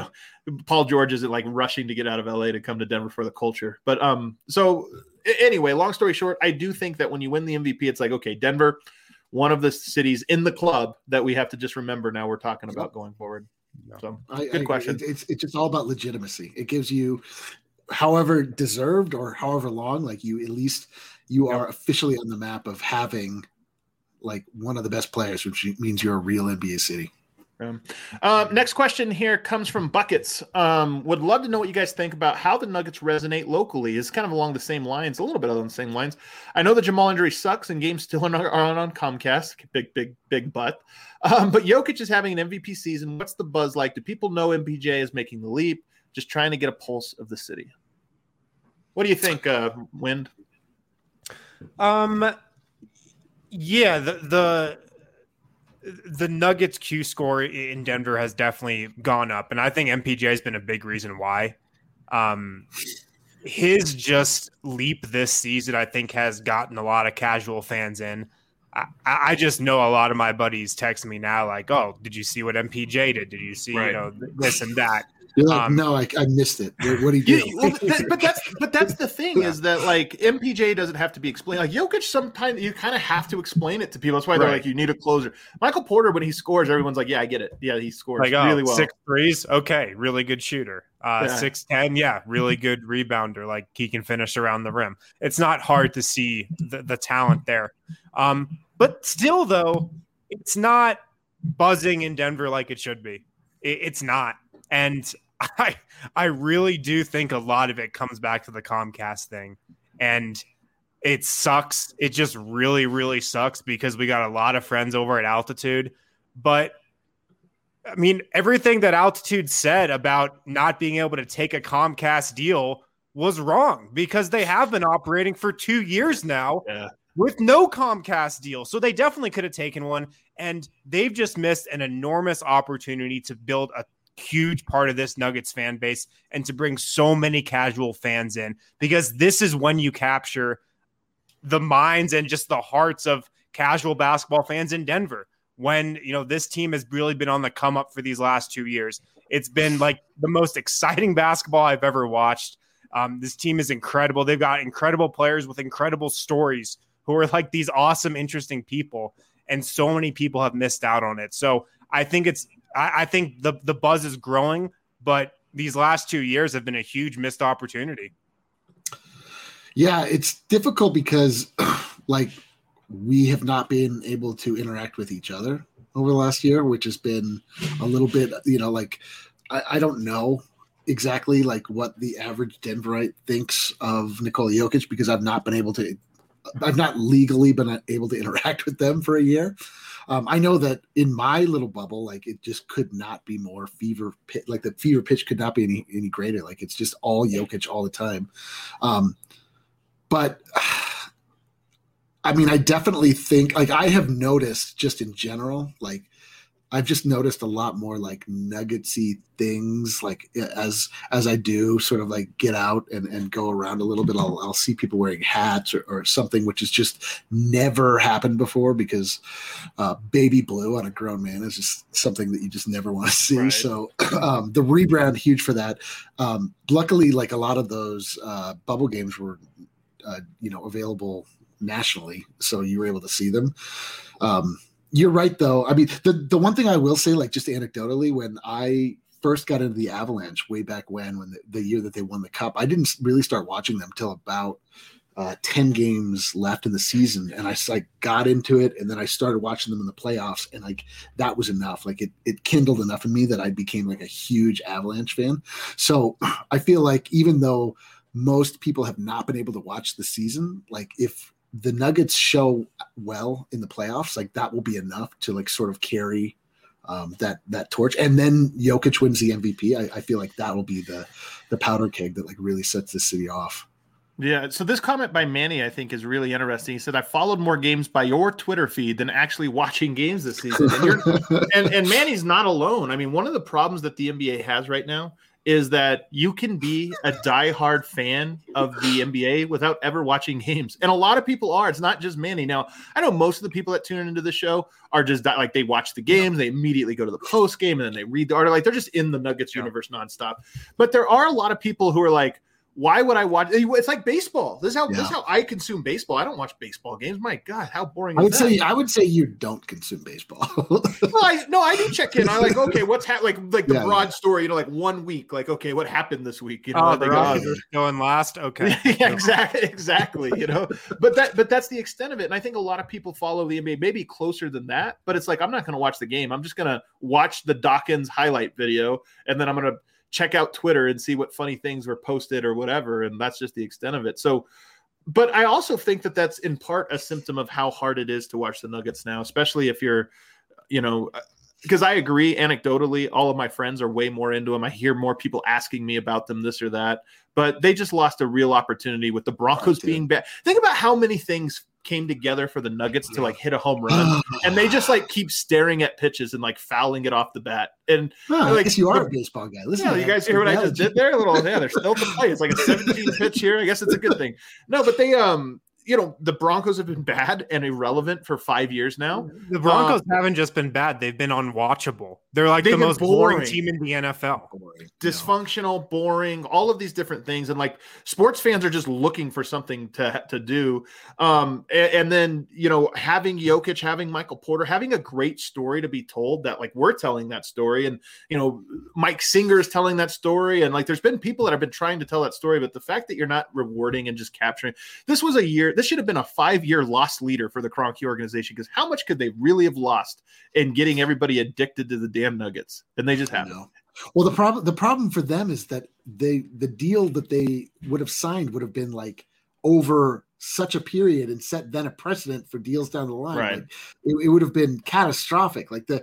Paul George isn't like rushing to get out of LA to come to Denver for the culture. But so anyway, long story short, I do think that when you win the MVP, it's like, okay, Denver, one of the cities in the club that we have to just remember now we're talking about going forward. So good question. It's just all about legitimacy. It gives you however deserved or however long, like you, at least you are officially on the map of having like one of the best players, which means you're a real NBA city. Next question here comes from Buckets. Would love to know what you guys think about how the Nuggets resonate locally. It's kind of along the same lines, a little bit along the same lines. I know the Jamal injury sucks and games still are on Comcast. Big butt. But Jokic is having an MVP season. What's the buzz like? Do people know MPJ is making the leap? Just trying to get a pulse of the city. What do you think, Wind? Yeah, the Nuggets Q score in Denver has definitely gone up, and I think MPJ has been a big reason why. His just leap this season, I think, has gotten a lot of casual fans in. I just know a lot of my buddies text me now like, oh, did you see what MPJ did? Did you see, this and that? You're like, no, I missed it. What do you do? But that's the thing is that like MPJ doesn't have to be explained. Like Jokic, sometimes you kind of have to explain it to people. That's why they're like, you need a closer. Michael Porter, when he scores, everyone's like, yeah, I get it. Yeah, he scores like, really well. 6 threes, okay, really good shooter. 6'10", yeah, really good rebounder. Like he can finish around the rim. It's not hard to see the talent there. But still, though, it's not buzzing in Denver like it should be. It's not. And I really do think a lot of it comes back to the Comcast thing. And it sucks. It just really, really sucks because we got a lot of friends over at Altitude. But, I mean, everything that Altitude said about not being able to take a Comcast deal was wrong because they have been operating for 2 years now with no Comcast deal. So they definitely could have taken one, and they've just missed an enormous opportunity to build a huge part of this Nuggets fan base and to bring so many casual fans in, because this is when you capture the minds and just the hearts of casual basketball fans in Denver. When, this team has really been on the come up for these last 2 years. It's been like the most exciting basketball I've ever watched. This team is incredible. They've got incredible players with incredible stories who are like these awesome, interesting people. And so many people have missed out on it. So I think the buzz is growing, but these last 2 years have been a huge missed opportunity. Yeah, it's difficult because we have not been able to interact with each other over the last year, which has been a little bit, I don't know exactly what the average Denverite thinks of Nikola Jokic, because I've not legally been able to interact with them for a year. I know that in my little bubble, it just could not be more fever pitch. The fever pitch could not be any greater. It's just all Jokic all the time. But I mean, I definitely think I have noticed just in general, I've just noticed a lot more nuggetsy things as I do sort of get out and go around a little bit. I'll see people wearing hats or something, which has just never happened before, because baby blue on a grown man is just something that you just never want to see. Right. So the rebrand, huge for that. Luckily, a lot of those bubble games were, available nationally, so you were able to see them. You're right, though. I mean, the one thing I will say, just anecdotally, when I first got into the Avalanche way back when the year that they won the Cup, I didn't really start watching them till about 10 games left in the season, and I got into it, and then I started watching them in the playoffs, and that was enough. It kindled enough in me that I became a huge Avalanche fan. So I feel even though most people have not been able to watch the season, if the Nuggets show well in the playoffs, that will be enough to sort of carry that torch. And then Jokic wins the MVP. I feel that will be the powder keg that really sets the city off. Yeah. So this comment by Manny, I think, is really interesting. He said, I followed more games by your Twitter feed than actually watching games this season. And Manny's not alone. I mean, one of the problems that the NBA has right now is that you can be a diehard fan of the NBA without ever watching games. And a lot of people are. It's not just Manny. Now, I know most of the people that tune into the show are just they watch the games, they immediately go to the post game, and then they read the article. They're just in the Nuggets universe nonstop. But there are a lot of people who are why would I watch? It's like baseball. This is how I consume baseball. I don't watch baseball games. My God, how boring is that? I would say you don't consume baseball. Well, I do check in. I okay, what's happening? The broad story. 1 week. Okay, what happened this week? They're going last. Okay, yeah, exactly. But that's the extent of it. And I think a lot of people follow the NBA maybe closer than that. But it's I'm not going to watch the game. I'm just going to watch the Dawkins highlight video, and then I'm going to check out Twitter and see what funny things were posted or whatever. And that's just the extent of it. So, but I also think that that's in part a symptom of how hard it is to watch the Nuggets now, especially if you're, because I agree, anecdotally, all of my friends are way more into them. I hear more people asking me about them, this or that, but they just lost a real opportunity with the Broncos being bad. Think about how many things came together for the Nuggets to hit a home run, and they just keep staring at pitches and fouling it off the bat. And I guess you are a baseball guy. Listen, you guys hear what I just did there? They're still to play. It's a 17 pitch here. I guess it's a good thing. No, but they the Broncos have been bad and irrelevant for 5 years now. The Broncos haven't just been bad. They've been unwatchable. They're the most boring team in the NFL. Dysfunctional, boring, all of these different things. And sports fans are just looking for something to do. And then, having Jokic, having Michael Porter, having a great story to be told that we're telling that story. And, Mike Singer is telling that story. And there's been people that have been trying to tell that story, but the fact that you're not rewarding and just capturing, this should have been a 5-year loss leader for the Kroenke organization, because how much could they really have lost in getting everybody addicted to the damn Nuggets? And they just haven't. Well, the problem for them is that the deal that they would have signed would have been over such a period and set then a precedent for deals down the line. Right. It would have been catastrophic.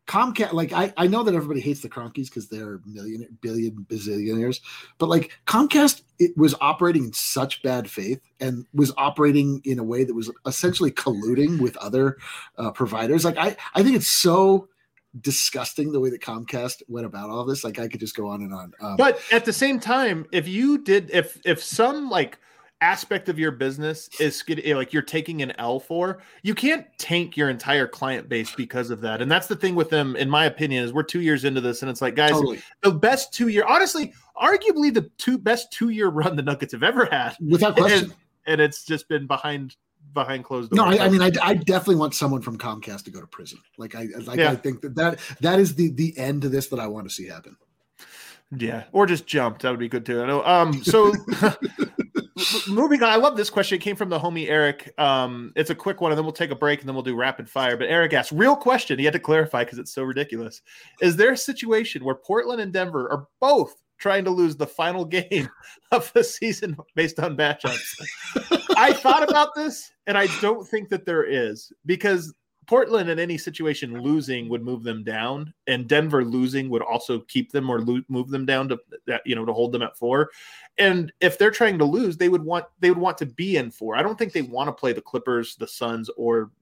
Comcast, like I know that everybody hates the Cronkies because they're billion bazillionaires, but like Comcast, it was operating in such bad faith and was operating in a way that was essentially colluding with other providers. Like I think it's so disgusting the way that Comcast went about all this. Like I could just go on and on. But at the same time, if some like aspect of your business is like you're taking an L for, you can't tank your entire client base because of that. And that's the thing with them, in my opinion, is we're 2 years into this, and it's like, guys, the best 2 year, honestly, arguably the best 2 year run the Nuggets have ever had, without question. And it's just been behind closed doors. No, I mean, I definitely want someone from Comcast to go to prison. Like I think that is the end to this that I want to see happen. Yeah, or just jump. That would be good too. I know. So moving on, I love this question. It came from the homie Eric. It's a quick one, and then we'll take a break, and then we'll do rapid fire. But Eric asked, real question. He had to clarify because it's so ridiculous. Is there a situation where Portland and Denver are both trying to lose the final game of the season based on matchups? I thought about this, and I don't think that there is, because Portland in any situation losing would move them down, and Denver losing would also keep them or move them down to hold them at 4. And if they're trying to lose, they would want to be in 4. I don't think they want to play the Clippers, the Suns, or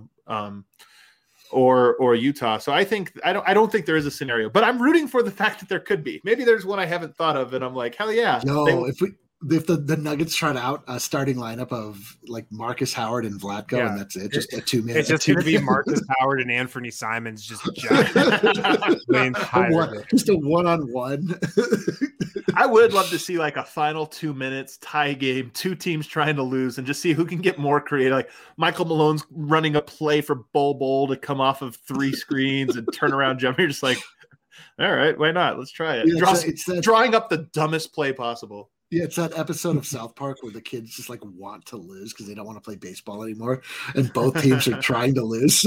or Utah. So I don't think there is a scenario, but I'm rooting for the fact that there could be. Maybe there's one I haven't thought of, and I'm like, hell yeah. No, if the Nuggets trot out a starting lineup of like Marcus Howard and Vlatko, and that's it, just a 2 minutes. It's just going to be Marcus Howard and Anthony Simons just just a one-on-one. I would love to see like a final 2 minutes tie game, 2 teams trying to lose, and just see who can get more creative. Like Michael Malone's running a play for Bol to come off of 3 screens and turn around jump. You're just like, all right, why not? Let's try it. Yeah, drawing up the dumbest play possible. Yeah, it's that episode of South Park where the kids just like want to lose because they don't want to play baseball anymore, and both teams are trying to lose.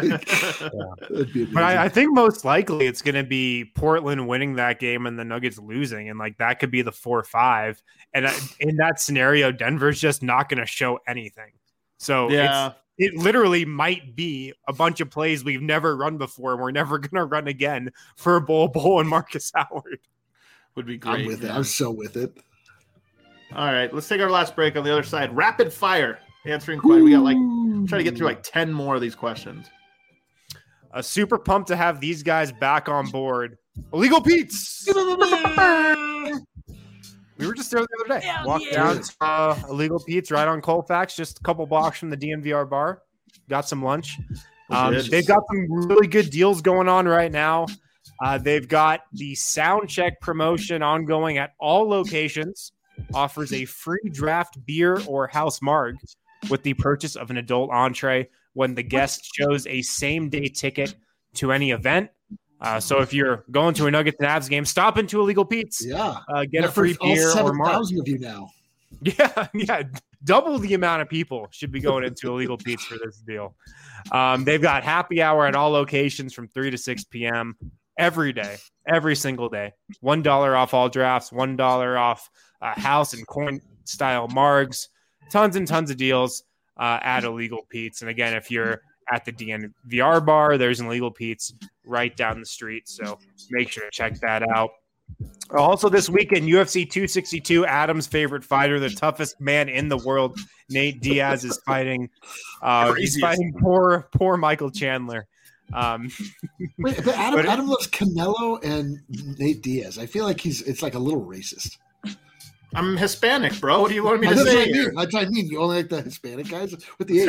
But I think most likely it's going to be Portland winning that game and the Nuggets losing, and like that could be the 4-5. And in that scenario, Denver's just not going to show anything. So it literally might be a bunch of plays we've never run before, and we're never going to run again for Bol and Marcus Howard. Would be great. I'm with it. I'm so with it. All right, let's take our last break. On the other side, rapid fire answering questions. We got try to get through like 10 more of these questions. Super pumped to have these guys back on board. Illegal Pete's. We were just there the other day. Walked down to Illegal Pete's right on Colfax, just a couple blocks from the DNVR bar. Got some lunch. They've got some really good deals going on right now. They've got the sound check promotion ongoing at all locations. Offers a free draft beer or house marg with the purchase of an adult entree when the guest shows a same-day ticket to any event. So if you're going to a Nuggets and Avs game, stop into Illegal Pete's. Yeah. Get a free beer or marg. 7,000 of you now. Yeah. Double the amount of people should be going into Illegal Pete's for this deal. They've got happy hour at all locations from 3 to 6 p.m. every day, every single day. $1 off all drafts, $1 off house and coin style margs, tons and tons of deals at Illegal Pete's. And again, if you're at the DNVR bar, there's an Illegal Pete's right down the street. So make sure to check that out. Also this weekend, UFC 262, Adam's favorite fighter, the toughest man in the world, Nate Diaz, is fighting. He's fighting poor Michael Chandler. Wait, but Adam loves Canelo and Nate Diaz. I feel like it's like a little racist. I'm Hispanic, bro. What do you want me to say? That's what I mean. You only like the Hispanic guys with the age.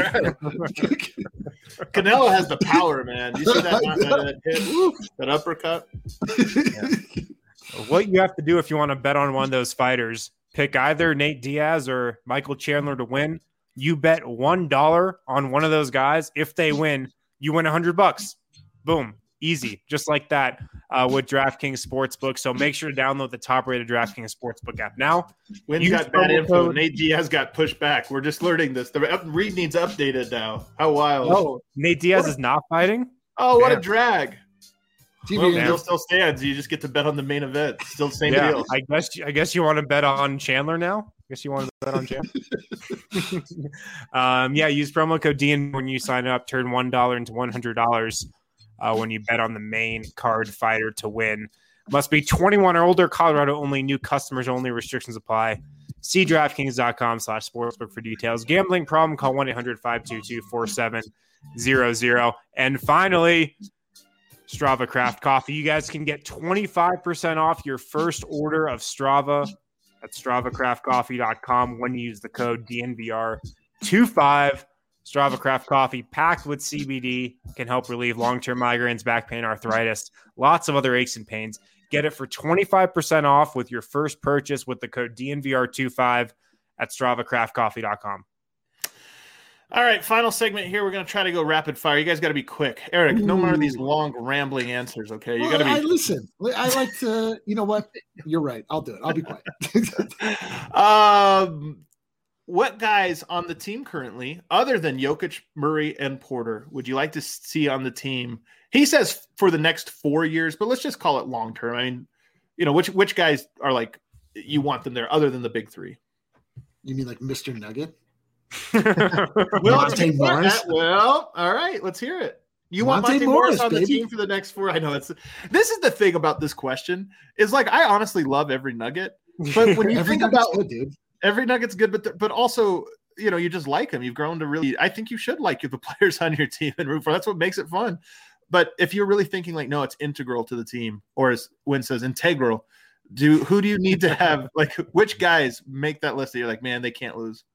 Canelo has the power, man. You see that hit, that uppercut? Yeah. What you have to do if you want to bet on one of those fighters, pick either Nate Diaz or Michael Chandler to win. You bet $1 on one of those guys. If they win, you win $100. Boom. Easy. Just like that with DraftKings Sportsbook. So make sure to download the top-rated DraftKings Sportsbook app now. Wynn's got bad info. Nate Diaz got pushed back. We're just learning this. The read needs updated now. How wild. Oh, Nate Diaz is not fighting? Oh, what a drag. Well, still stands. You just get to bet on the main event. Still the same deal. I guess you want to bet on Chandler now? I guess you want to bet on Chandler? Use promo code DN when you sign up. Turn $1 into $100 when you bet on the main card fighter to win. Must be 21 or older, Colorado only, new customers only, restrictions apply. See DraftKings.com/sportsbook for details. Gambling problem, call 1-800-522-4700. And finally, Strava Craft Coffee. You guys can get 25% off your first order of Strava at StravaCraftCoffee.com when you use the code DNVR25. Strava Craft Coffee, packed with CBD, can help relieve long-term migraines, back pain, arthritis, lots of other aches and pains. Get it for 25% off with your first purchase with the code DNVR25 at StravaCraftCoffee.com. All right, final segment here. We're going to try to go rapid fire. You guys got to be quick. Eric, no more of these long, rambling answers, okay? You got to be. Listen, I like to, you know what? You're right. I'll do it. I'll be quiet. What guys on the team currently, other than Jokic, Murray, and Porter, would you like to see on the team? He says for the next 4 years, but let's just call it long term. I mean, you know, which guys are like you want them there other than the big three? You mean like Mr. Nugget? Monte Morris? Well, all right, let's hear it. You want Monte Morris on the team for the next 4? I know this is the thing about this question is like I honestly love every Nugget, but when you think about good, dude. Every Nugget's good, but also, you know, you just like them. You've grown to really. I think you should like the players on your team and root for. That's what makes it fun. But if you're really thinking like, no, it's integral to the team, or as Wynn says, integral. Who do you need to have? Like, which guys make that list that you're like, man, they can't lose?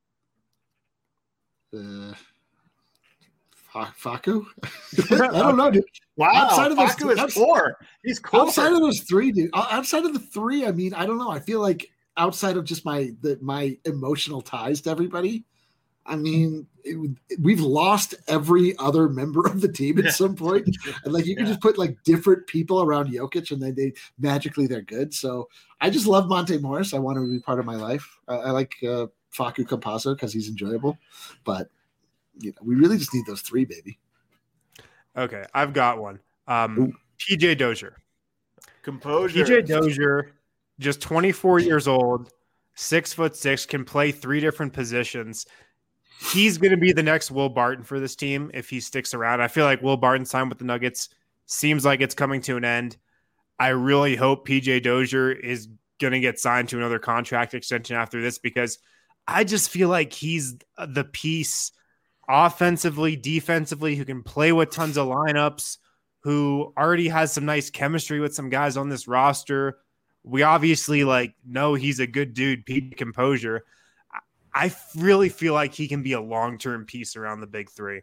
Facu? I don't know, dude. Wow, outside of Facu is 4. He's closer. Outside of those 3, dude. Outside of the 3, I mean, I don't know. I feel like outside of just my emotional ties to everybody, I mean, we've lost every other member of the team at some point. And like you can just put like different people around Jokic, and then they're good. So I just love Monte Morris. I want him to be part of my life. I like Facu Campazzo because he's enjoyable, but you know, we really just need those 3, baby. Okay, I've got one. PJ Dozier. Composure. PJ Dozier. Just 24 years old, 6'6", can play 3 different positions. He's going to be the next Will Barton for this team if he sticks around. I feel like Will Barton's time with the Nuggets seems like it's coming to an end. I really hope PJ Dozier is going to get signed to another contract extension after this because I just feel like he's the piece offensively, defensively, who can play with tons of lineups, who already has some nice chemistry with some guys on this roster. We obviously know he's a good dude, Pete Composure. I really feel like he can be a long-term piece around the big 3.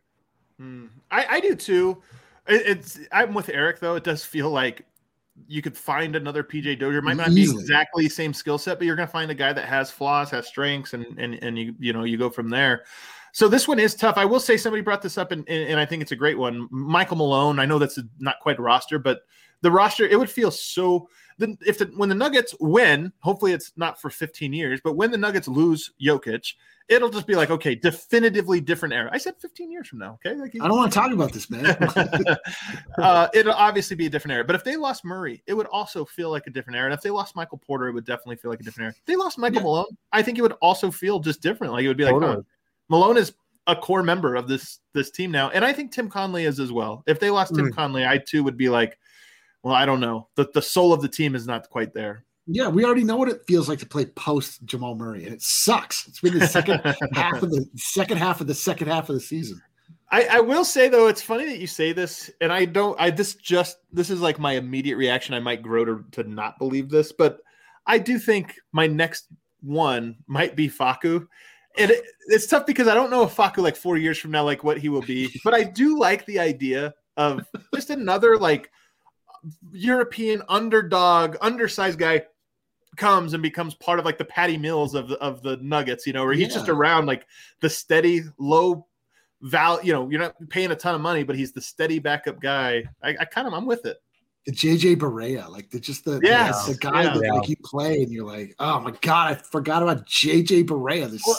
I do too. I'm with Eric though. It does feel like you could find another PJ Dozier. It might not be exactly the same skill set, but you're going to find a guy that has flaws, has strengths, and you go from there. So this one is tough. I will say somebody brought this up, and I think it's a great one. Michael Malone. I know that's not quite a roster, but the roster, it would feel so. When the Nuggets win, hopefully it's not for 15 years, but when the Nuggets lose Jokic, it'll just be like, okay, definitively different era. I said 15 years from now, okay? I don't want to talk about this, man. It'll obviously be a different era. But if they lost Murray, it would also feel like a different era. And if they lost Michael Porter, it would definitely feel like a different era. If they lost Michael Malone, I think it would also feel just different. Like it would be like, oh, Malone is a core member of this team now. And I think Tim Conley is as well. If they lost Tim Conley, I too would be like, well, I don't know. The soul of the team is not quite there. Yeah, we already know what it feels like to play post Jamal Murray, and it sucks. It's been the second half of the second half of the season. I will say though, it's funny that you say this, and this is like my immediate reaction. I might grow to not believe this, but I do think my next one might be Facu. And it's tough because I don't know if Facu like 4 years from now, like what he will be, but I do like the idea of just another like European underdog, undersized guy comes and becomes part of like the Patty Mills of the Nuggets, where he's just around like the steady low value, you're not paying a ton of money, but he's the steady backup guy. I'm with it. The JJ Barea, like the guy that like you play and you're like, oh my God, I forgot about JJ Barea. This sucks.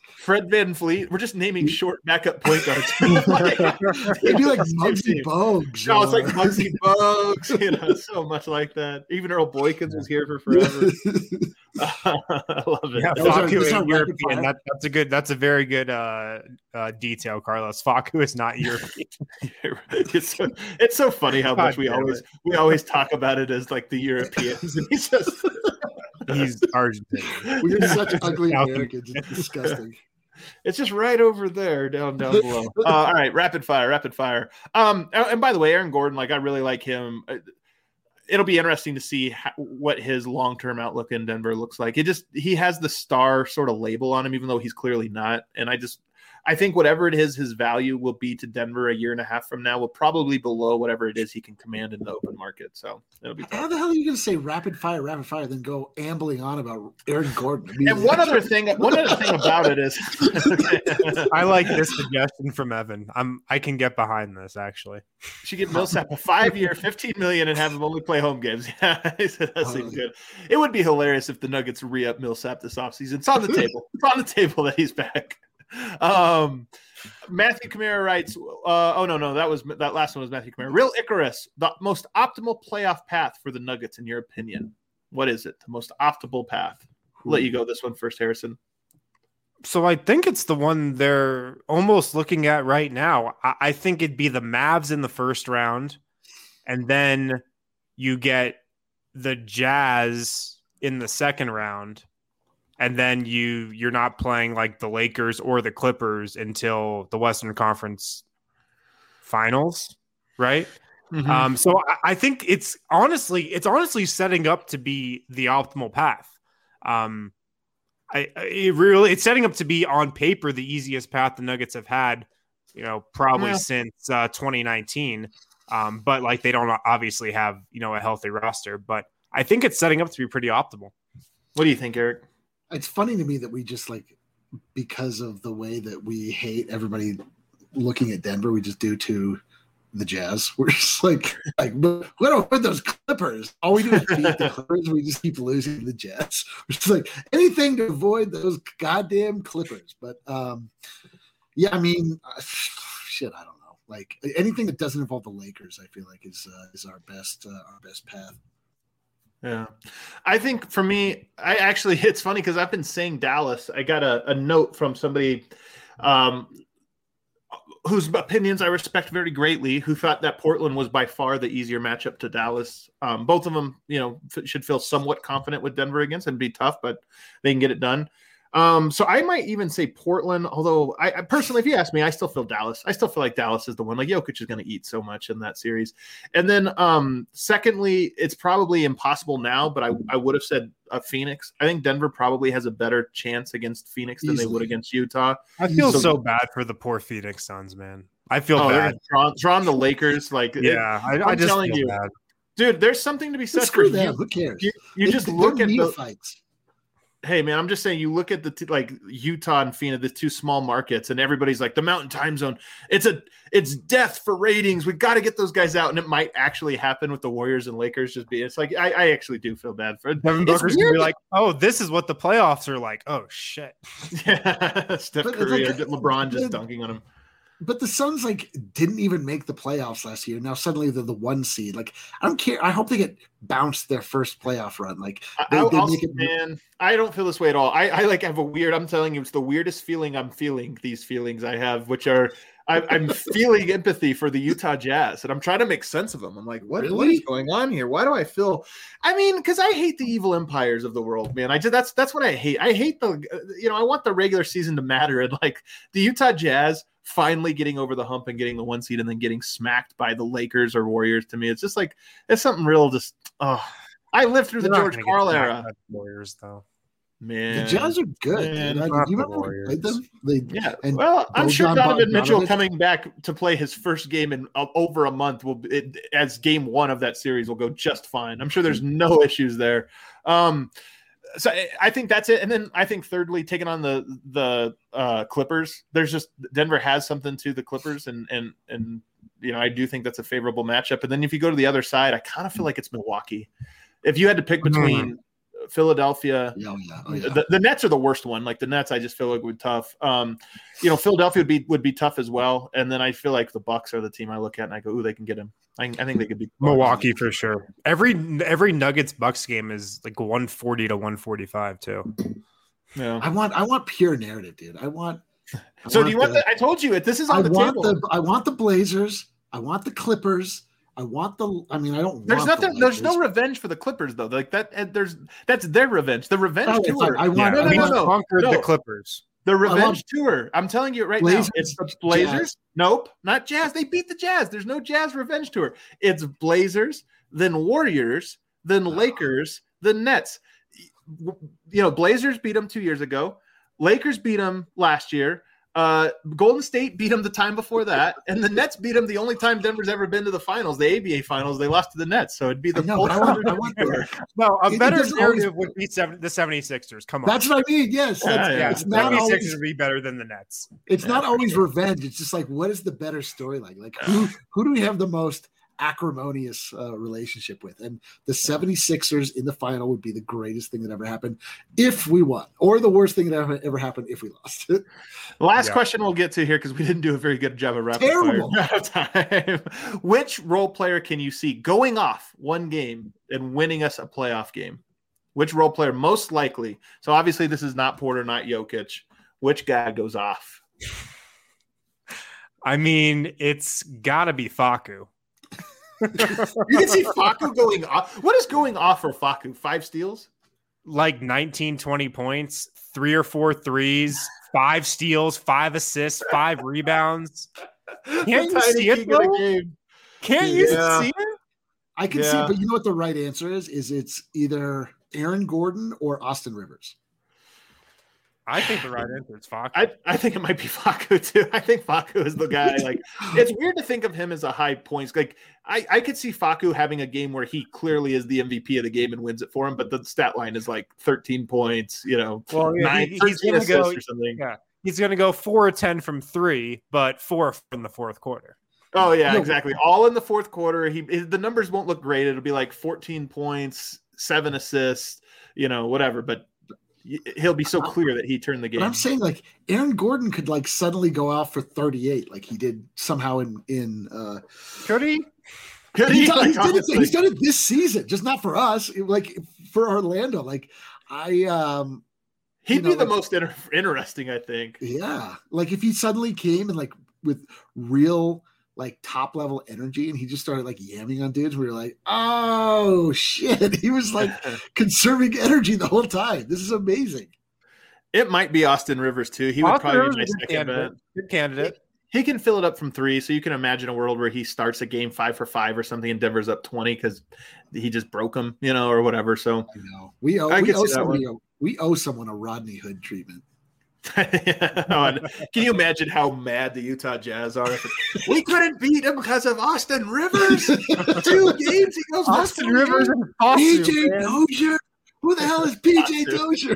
Fred VanVleet. We're just naming short backup point guards. It'd be like Muggsy Bogues. No, it's like Muggsy Bogues. So much like that. Even Earl Boykins was here for forever. I love it. Yeah, Facu is European. That's a very good detail, Carlos. Facu is not European. It's so funny how much we always talk about it as like the Europeans, and he's Argentinian. We're such ugly Americans. It's disgusting. It's just right over there, down below. All right, rapid fire. And by the way, Aaron Gordon, like I really like him. It'll be interesting to see what his long-term outlook in Denver looks like. He has the star sort of label on him, even though he's clearly not. And I think whatever it is, his value will be to Denver a year and a half from now will probably below whatever it is he can command in the open market. So it'll be tough. How the hell are you going to say rapid fire, then go ambling on about Aaron Gordon? And one other thing about it is, I like this suggestion from Evan. I can get behind this actually. Should give Millsap a 5-year, $15 million and have him only play home games. Yeah, that seems good. It would be hilarious if the Nuggets re-up Millsap this offseason. It's on the table. It's on the table that he's back. Matthew Kamara writes, that last one was Matthew Kamara. Real Icarus, the most optimal playoff path for the Nuggets in your opinion. What is it? The most optimal path? I'll let you go this one first, Harrison. So I think it's the one they're almost looking at right now. I think it'd be the Mavs in the first round, and then you get the Jazz in the second round. And then you're not playing like the Lakers or the Clippers until the Western Conference Finals, right? Mm-hmm. So I think it's honestly setting up to be the optimal path. It's setting up to be on paper the easiest path the Nuggets have had, probably since 2019. But like they don't obviously have a healthy roster, but I think it's setting up to be pretty optimal. What do you think, Eric? It's funny to me that we just because of the way that we hate everybody looking at Denver, we just do to the Jazz. We're just like we don't win those Clippers. All we do is beat the Clippers. We just keep losing to the Jazz. We're just like anything to avoid those goddamn Clippers. But I mean, shit, I don't know. Like anything that doesn't involve the Lakers, I feel like is our best path. Yeah, I think for me, it's funny because I've been saying Dallas. I got a note from somebody whose opinions I respect very greatly, who thought that Portland was by far the easier matchup to Dallas. Both of them, should feel somewhat confident with Denver against and be tough, but they can get it done. So I might even say Portland, although I personally, if you ask me, I still feel Dallas. I still feel like Dallas is the one. Like Jokic is going to eat so much in that series. And then secondly, it's probably impossible now, but I would have said Phoenix. I think Denver probably has a better chance against Phoenix than they would against Utah. I feel so bad for the poor Phoenix Suns, man. I feel bad. Drawn the Lakers. I'm just telling you, bad. Dude, there's something to be said for them. Who cares? You just look at the fights. Hey, man, I'm just saying you look at the Utah and Phoenix, the two small markets, and everybody's like the Mountain Time Zone. It's death for ratings. We got to get those guys out, and it might actually happen with the Warriors and Lakers. It's like I actually do feel bad for Devin Booker's gonna be like, oh, this is what the playoffs are like. Oh shit, yeah, Steph Curry or LeBron just dunking on him. But the Suns didn't even make the playoffs last year. Now suddenly they're the 1 seed. I don't care. I hope they get bounced their first playoff run. I don't feel this way at all. I have a weird. I'm telling you, it's the weirdest feeling. I'm feeling these feelings I have, which are I'm feeling empathy for the Utah Jazz, and I'm trying to make sense of them. I'm like, what is going on here? Why do I feel? I mean, because I hate the evil empires of the world, man. That's what I hate. I hate I want the regular season to matter, and the Utah Jazz finally getting over the hump and getting the 1 seed and then getting smacked by the Lakers or Warriors. To me, it's just it's something real. Just I lived through the George Karl era. Warriors, though. Man, the Jazz are good. You remember we played them? I'm sure Donovan Mitchell coming back to play his first game in over a month as game 1 of that series will go just fine. I'm sure there's no issues there. So I think that's it. And then I think thirdly, taking on the Clippers, there's just Denver has something to the Clippers, and I do think that's a favorable matchup. And then if you go to the other side, I kind of feel like it's Milwaukee. If you had to pick between Philadelphia. Oh, yeah. The Nets are the worst one. Like the Nets, I just feel like would be tough. Philadelphia would be tough as well. And then I feel like the Bucks are the team I look at and I go, ooh, they can get him. I think they could beat Milwaukee for sure. Every Nuggets Bucks game is like 140 to 145 too. Yeah. I want pure narrative, dude. I told you this is on the table. I want the Blazers. I want the Clippers. I don't. There's no revenge for the Clippers though. Like that. That's their revenge. The revenge tour. The Clippers. The revenge tour. I'm telling you right Blazers, now. It's the Blazers. Jazz. Nope, not Jazz. They beat the Jazz. There's no Jazz revenge tour. It's Blazers, then Warriors, then Lakers, then Nets. Blazers beat them 2 years ago. Lakers beat them last year. Golden State beat them the time before that, and the Nets beat them the only time Denver's ever been to the finals, the ABA finals. They lost to the Nets, so it'd be the a better narrative would be the 76ers. Come on, that's what I mean. Yes, it's not 76ers would be better than the Nets. It's not always revenge. It's just like, what is the better storyline? Like who do we have the most acrimonious relationship with? And the 76ers in the final would be the greatest thing that ever happened if we won, or the worst thing that ever happened if we lost. Last question we'll get to here because we didn't do a very good job of rapid fire time. Which role player can you see going off one game and winning us a playoff game? Which role player most likely? So obviously this is not Porter, not Jokic. Which guy goes off? I mean, it's got to be Facu. You can see Facu going off. What is going off for Facu? 5 steals? Like 19, 20 points, 3 or 4 threes, 5 steals, 5 assists, 5 rebounds. Can't you see it, bro? Can't you see it? I can see it, but you know what the right answer is? It's either Aaron Gordon or Austin Rivers. I think the right answer is Facu. I think it might be Facu too. I think Facu is the guy. Like, it's weird to think of him as a high points. Like, I could see Facu having a game where he clearly is the MVP of the game and wins it for him, but the stat line is like 13 points. He's going to go or something. Yeah, he's going to go 4 or 10 from 3, but 4 in the fourth quarter. Oh yeah, exactly. All in the fourth quarter. The numbers won't look great. It'll be like 14 points, 7 assists, whatever. But he'll be so clear that he turned the game. But I'm saying, like, Aaron Gordon could like suddenly go out for 38, like he did somehow in could he? He's done it this season, just not for us. Like for Orlando, like he'd be the most interesting, I think. Yeah, like if he suddenly came and like with real like top level energy and he just started like yamming on dudes, we were like, oh shit, he was like conserving energy the whole time. This is amazing. It might be Austin Rivers too. He would probably be my second bet. Good candidate. He can fill it up from 3, so you can imagine a world where he starts a game 5 for 5 or something and Denver's up 20 because he just broke him, or whatever. So I know. We owe someone a Rodney Hood treatment. Can you imagine how mad the Utah Jazz are? We couldn't beat him because of Austin Rivers. 2 games he goes Austin Rivers and PJ Dozier. Who the hell is PJ Dozier?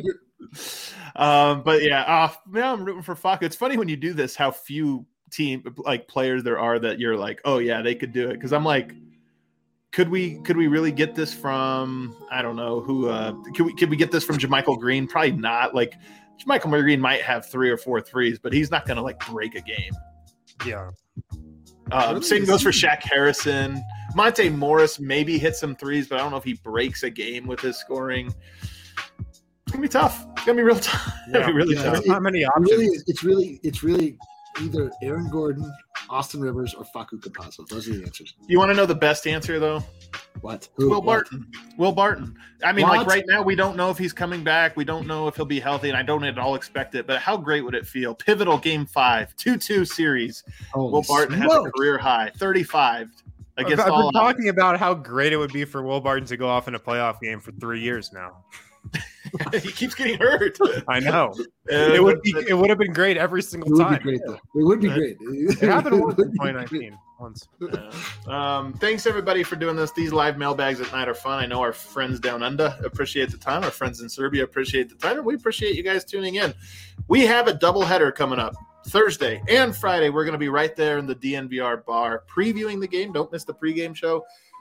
But now I'm rooting for Facu. It's funny when you do this how few players there are that you're like, oh yeah, they could do it. Because I'm like, could we really get this from, I don't know who? Could we get this from JaMychal Green? Probably not. Like, JaMychal Green might have 3 or 4 threes, but he's not going to like break a game. Yeah. Same goes for Shaq Harrison. Monte Morris maybe hits some threes, but I don't know if he breaks a game with his scoring. It's gonna be tough. It's gonna be real tough. Yeah. Really tough. Not many options. It's really either Aaron Gordon, Austin Rivers, or Facu Campazzo. Those are the answers. You want to know the best answer though? What? Will Barton. Will Barton. I mean, like right now, we don't know if he's coming back. We don't know if he'll be healthy, and I don't at all expect it. But how great would it feel? Pivotal game 5, 2-2 series. Will Barton has a career high, 35. I've been talking about how great it would be for Will Barton to go off in a playoff game for 3 years now. He keeps getting hurt. I know. It would have been great every single time. It would be great. It happened once in 2019. Once. Thanks everybody for doing this. These live mailbags at night are fun. I know our friends down under appreciate the time. Our friends in Serbia appreciate the time. And we appreciate you guys tuning in. We have a doubleheader coming up. Thursday and Friday, we're going to be right there in the DNVR bar previewing the game. Don't miss the pregame show.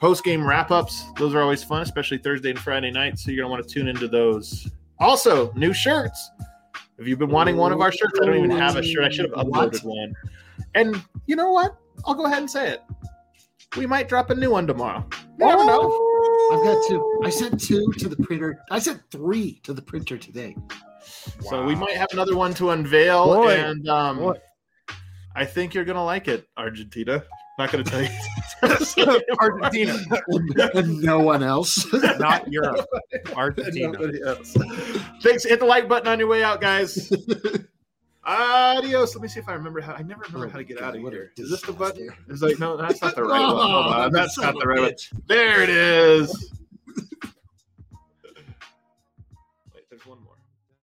post-game wrap-ups. Those are always fun, especially Thursday and Friday nights. So you're going to want to tune into those. Also, new shirts. If you've been wanting one of our shirts, I don't even have a shirt. I should have uploaded one. And you know what? I'll go ahead and say it. We might drop a new one tomorrow. You never know. I've got 2. I sent 2 to the printer. I sent 3 to the printer today. So we might have another one to unveil. And I think you're going to like it, Argentina. Not going to tell you. Argentina. And no one else. Not Europe. Argentina. Thanks. Hit the like button on your way out, guys. Adios. Let me see if I remember how. I never remember how to get out of here. Is this the button? It's like, no, that's not the right one. Hold on. That's not the right one. There it is. Wait, there's one more.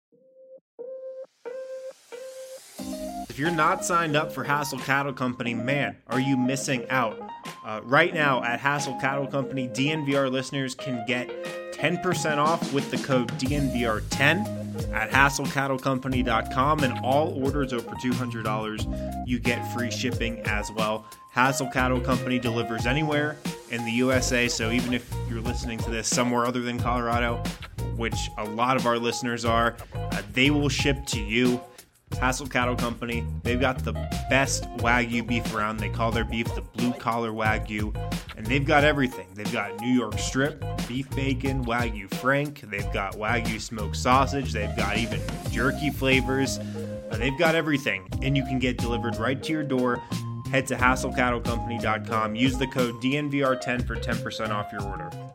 If you're not signed up for Hassel Cattle Company, man, are you missing out? Right now at Hassel Cattle Company, DNVR listeners can get 10% off with the code DNVR10 at HassleCattleCompany.com, and all orders over $200, you get free shipping as well. Hassel Cattle Company delivers anywhere in the USA, so even if you're listening to this somewhere other than Colorado, which a lot of our listeners are, they will ship to you. Hassel Cattle Company, they've got the best Wagyu beef around. They call their beef the blue collar Wagyu, and they've got everything. They've got New York strip, beef bacon, Wagyu Frank, they've got Wagyu smoked sausage, they've got even jerky flavors. They've got everything, and you can get delivered right to your door. Head to HassleCattleCompany.com, use the code DNVR10 for 10% off your order.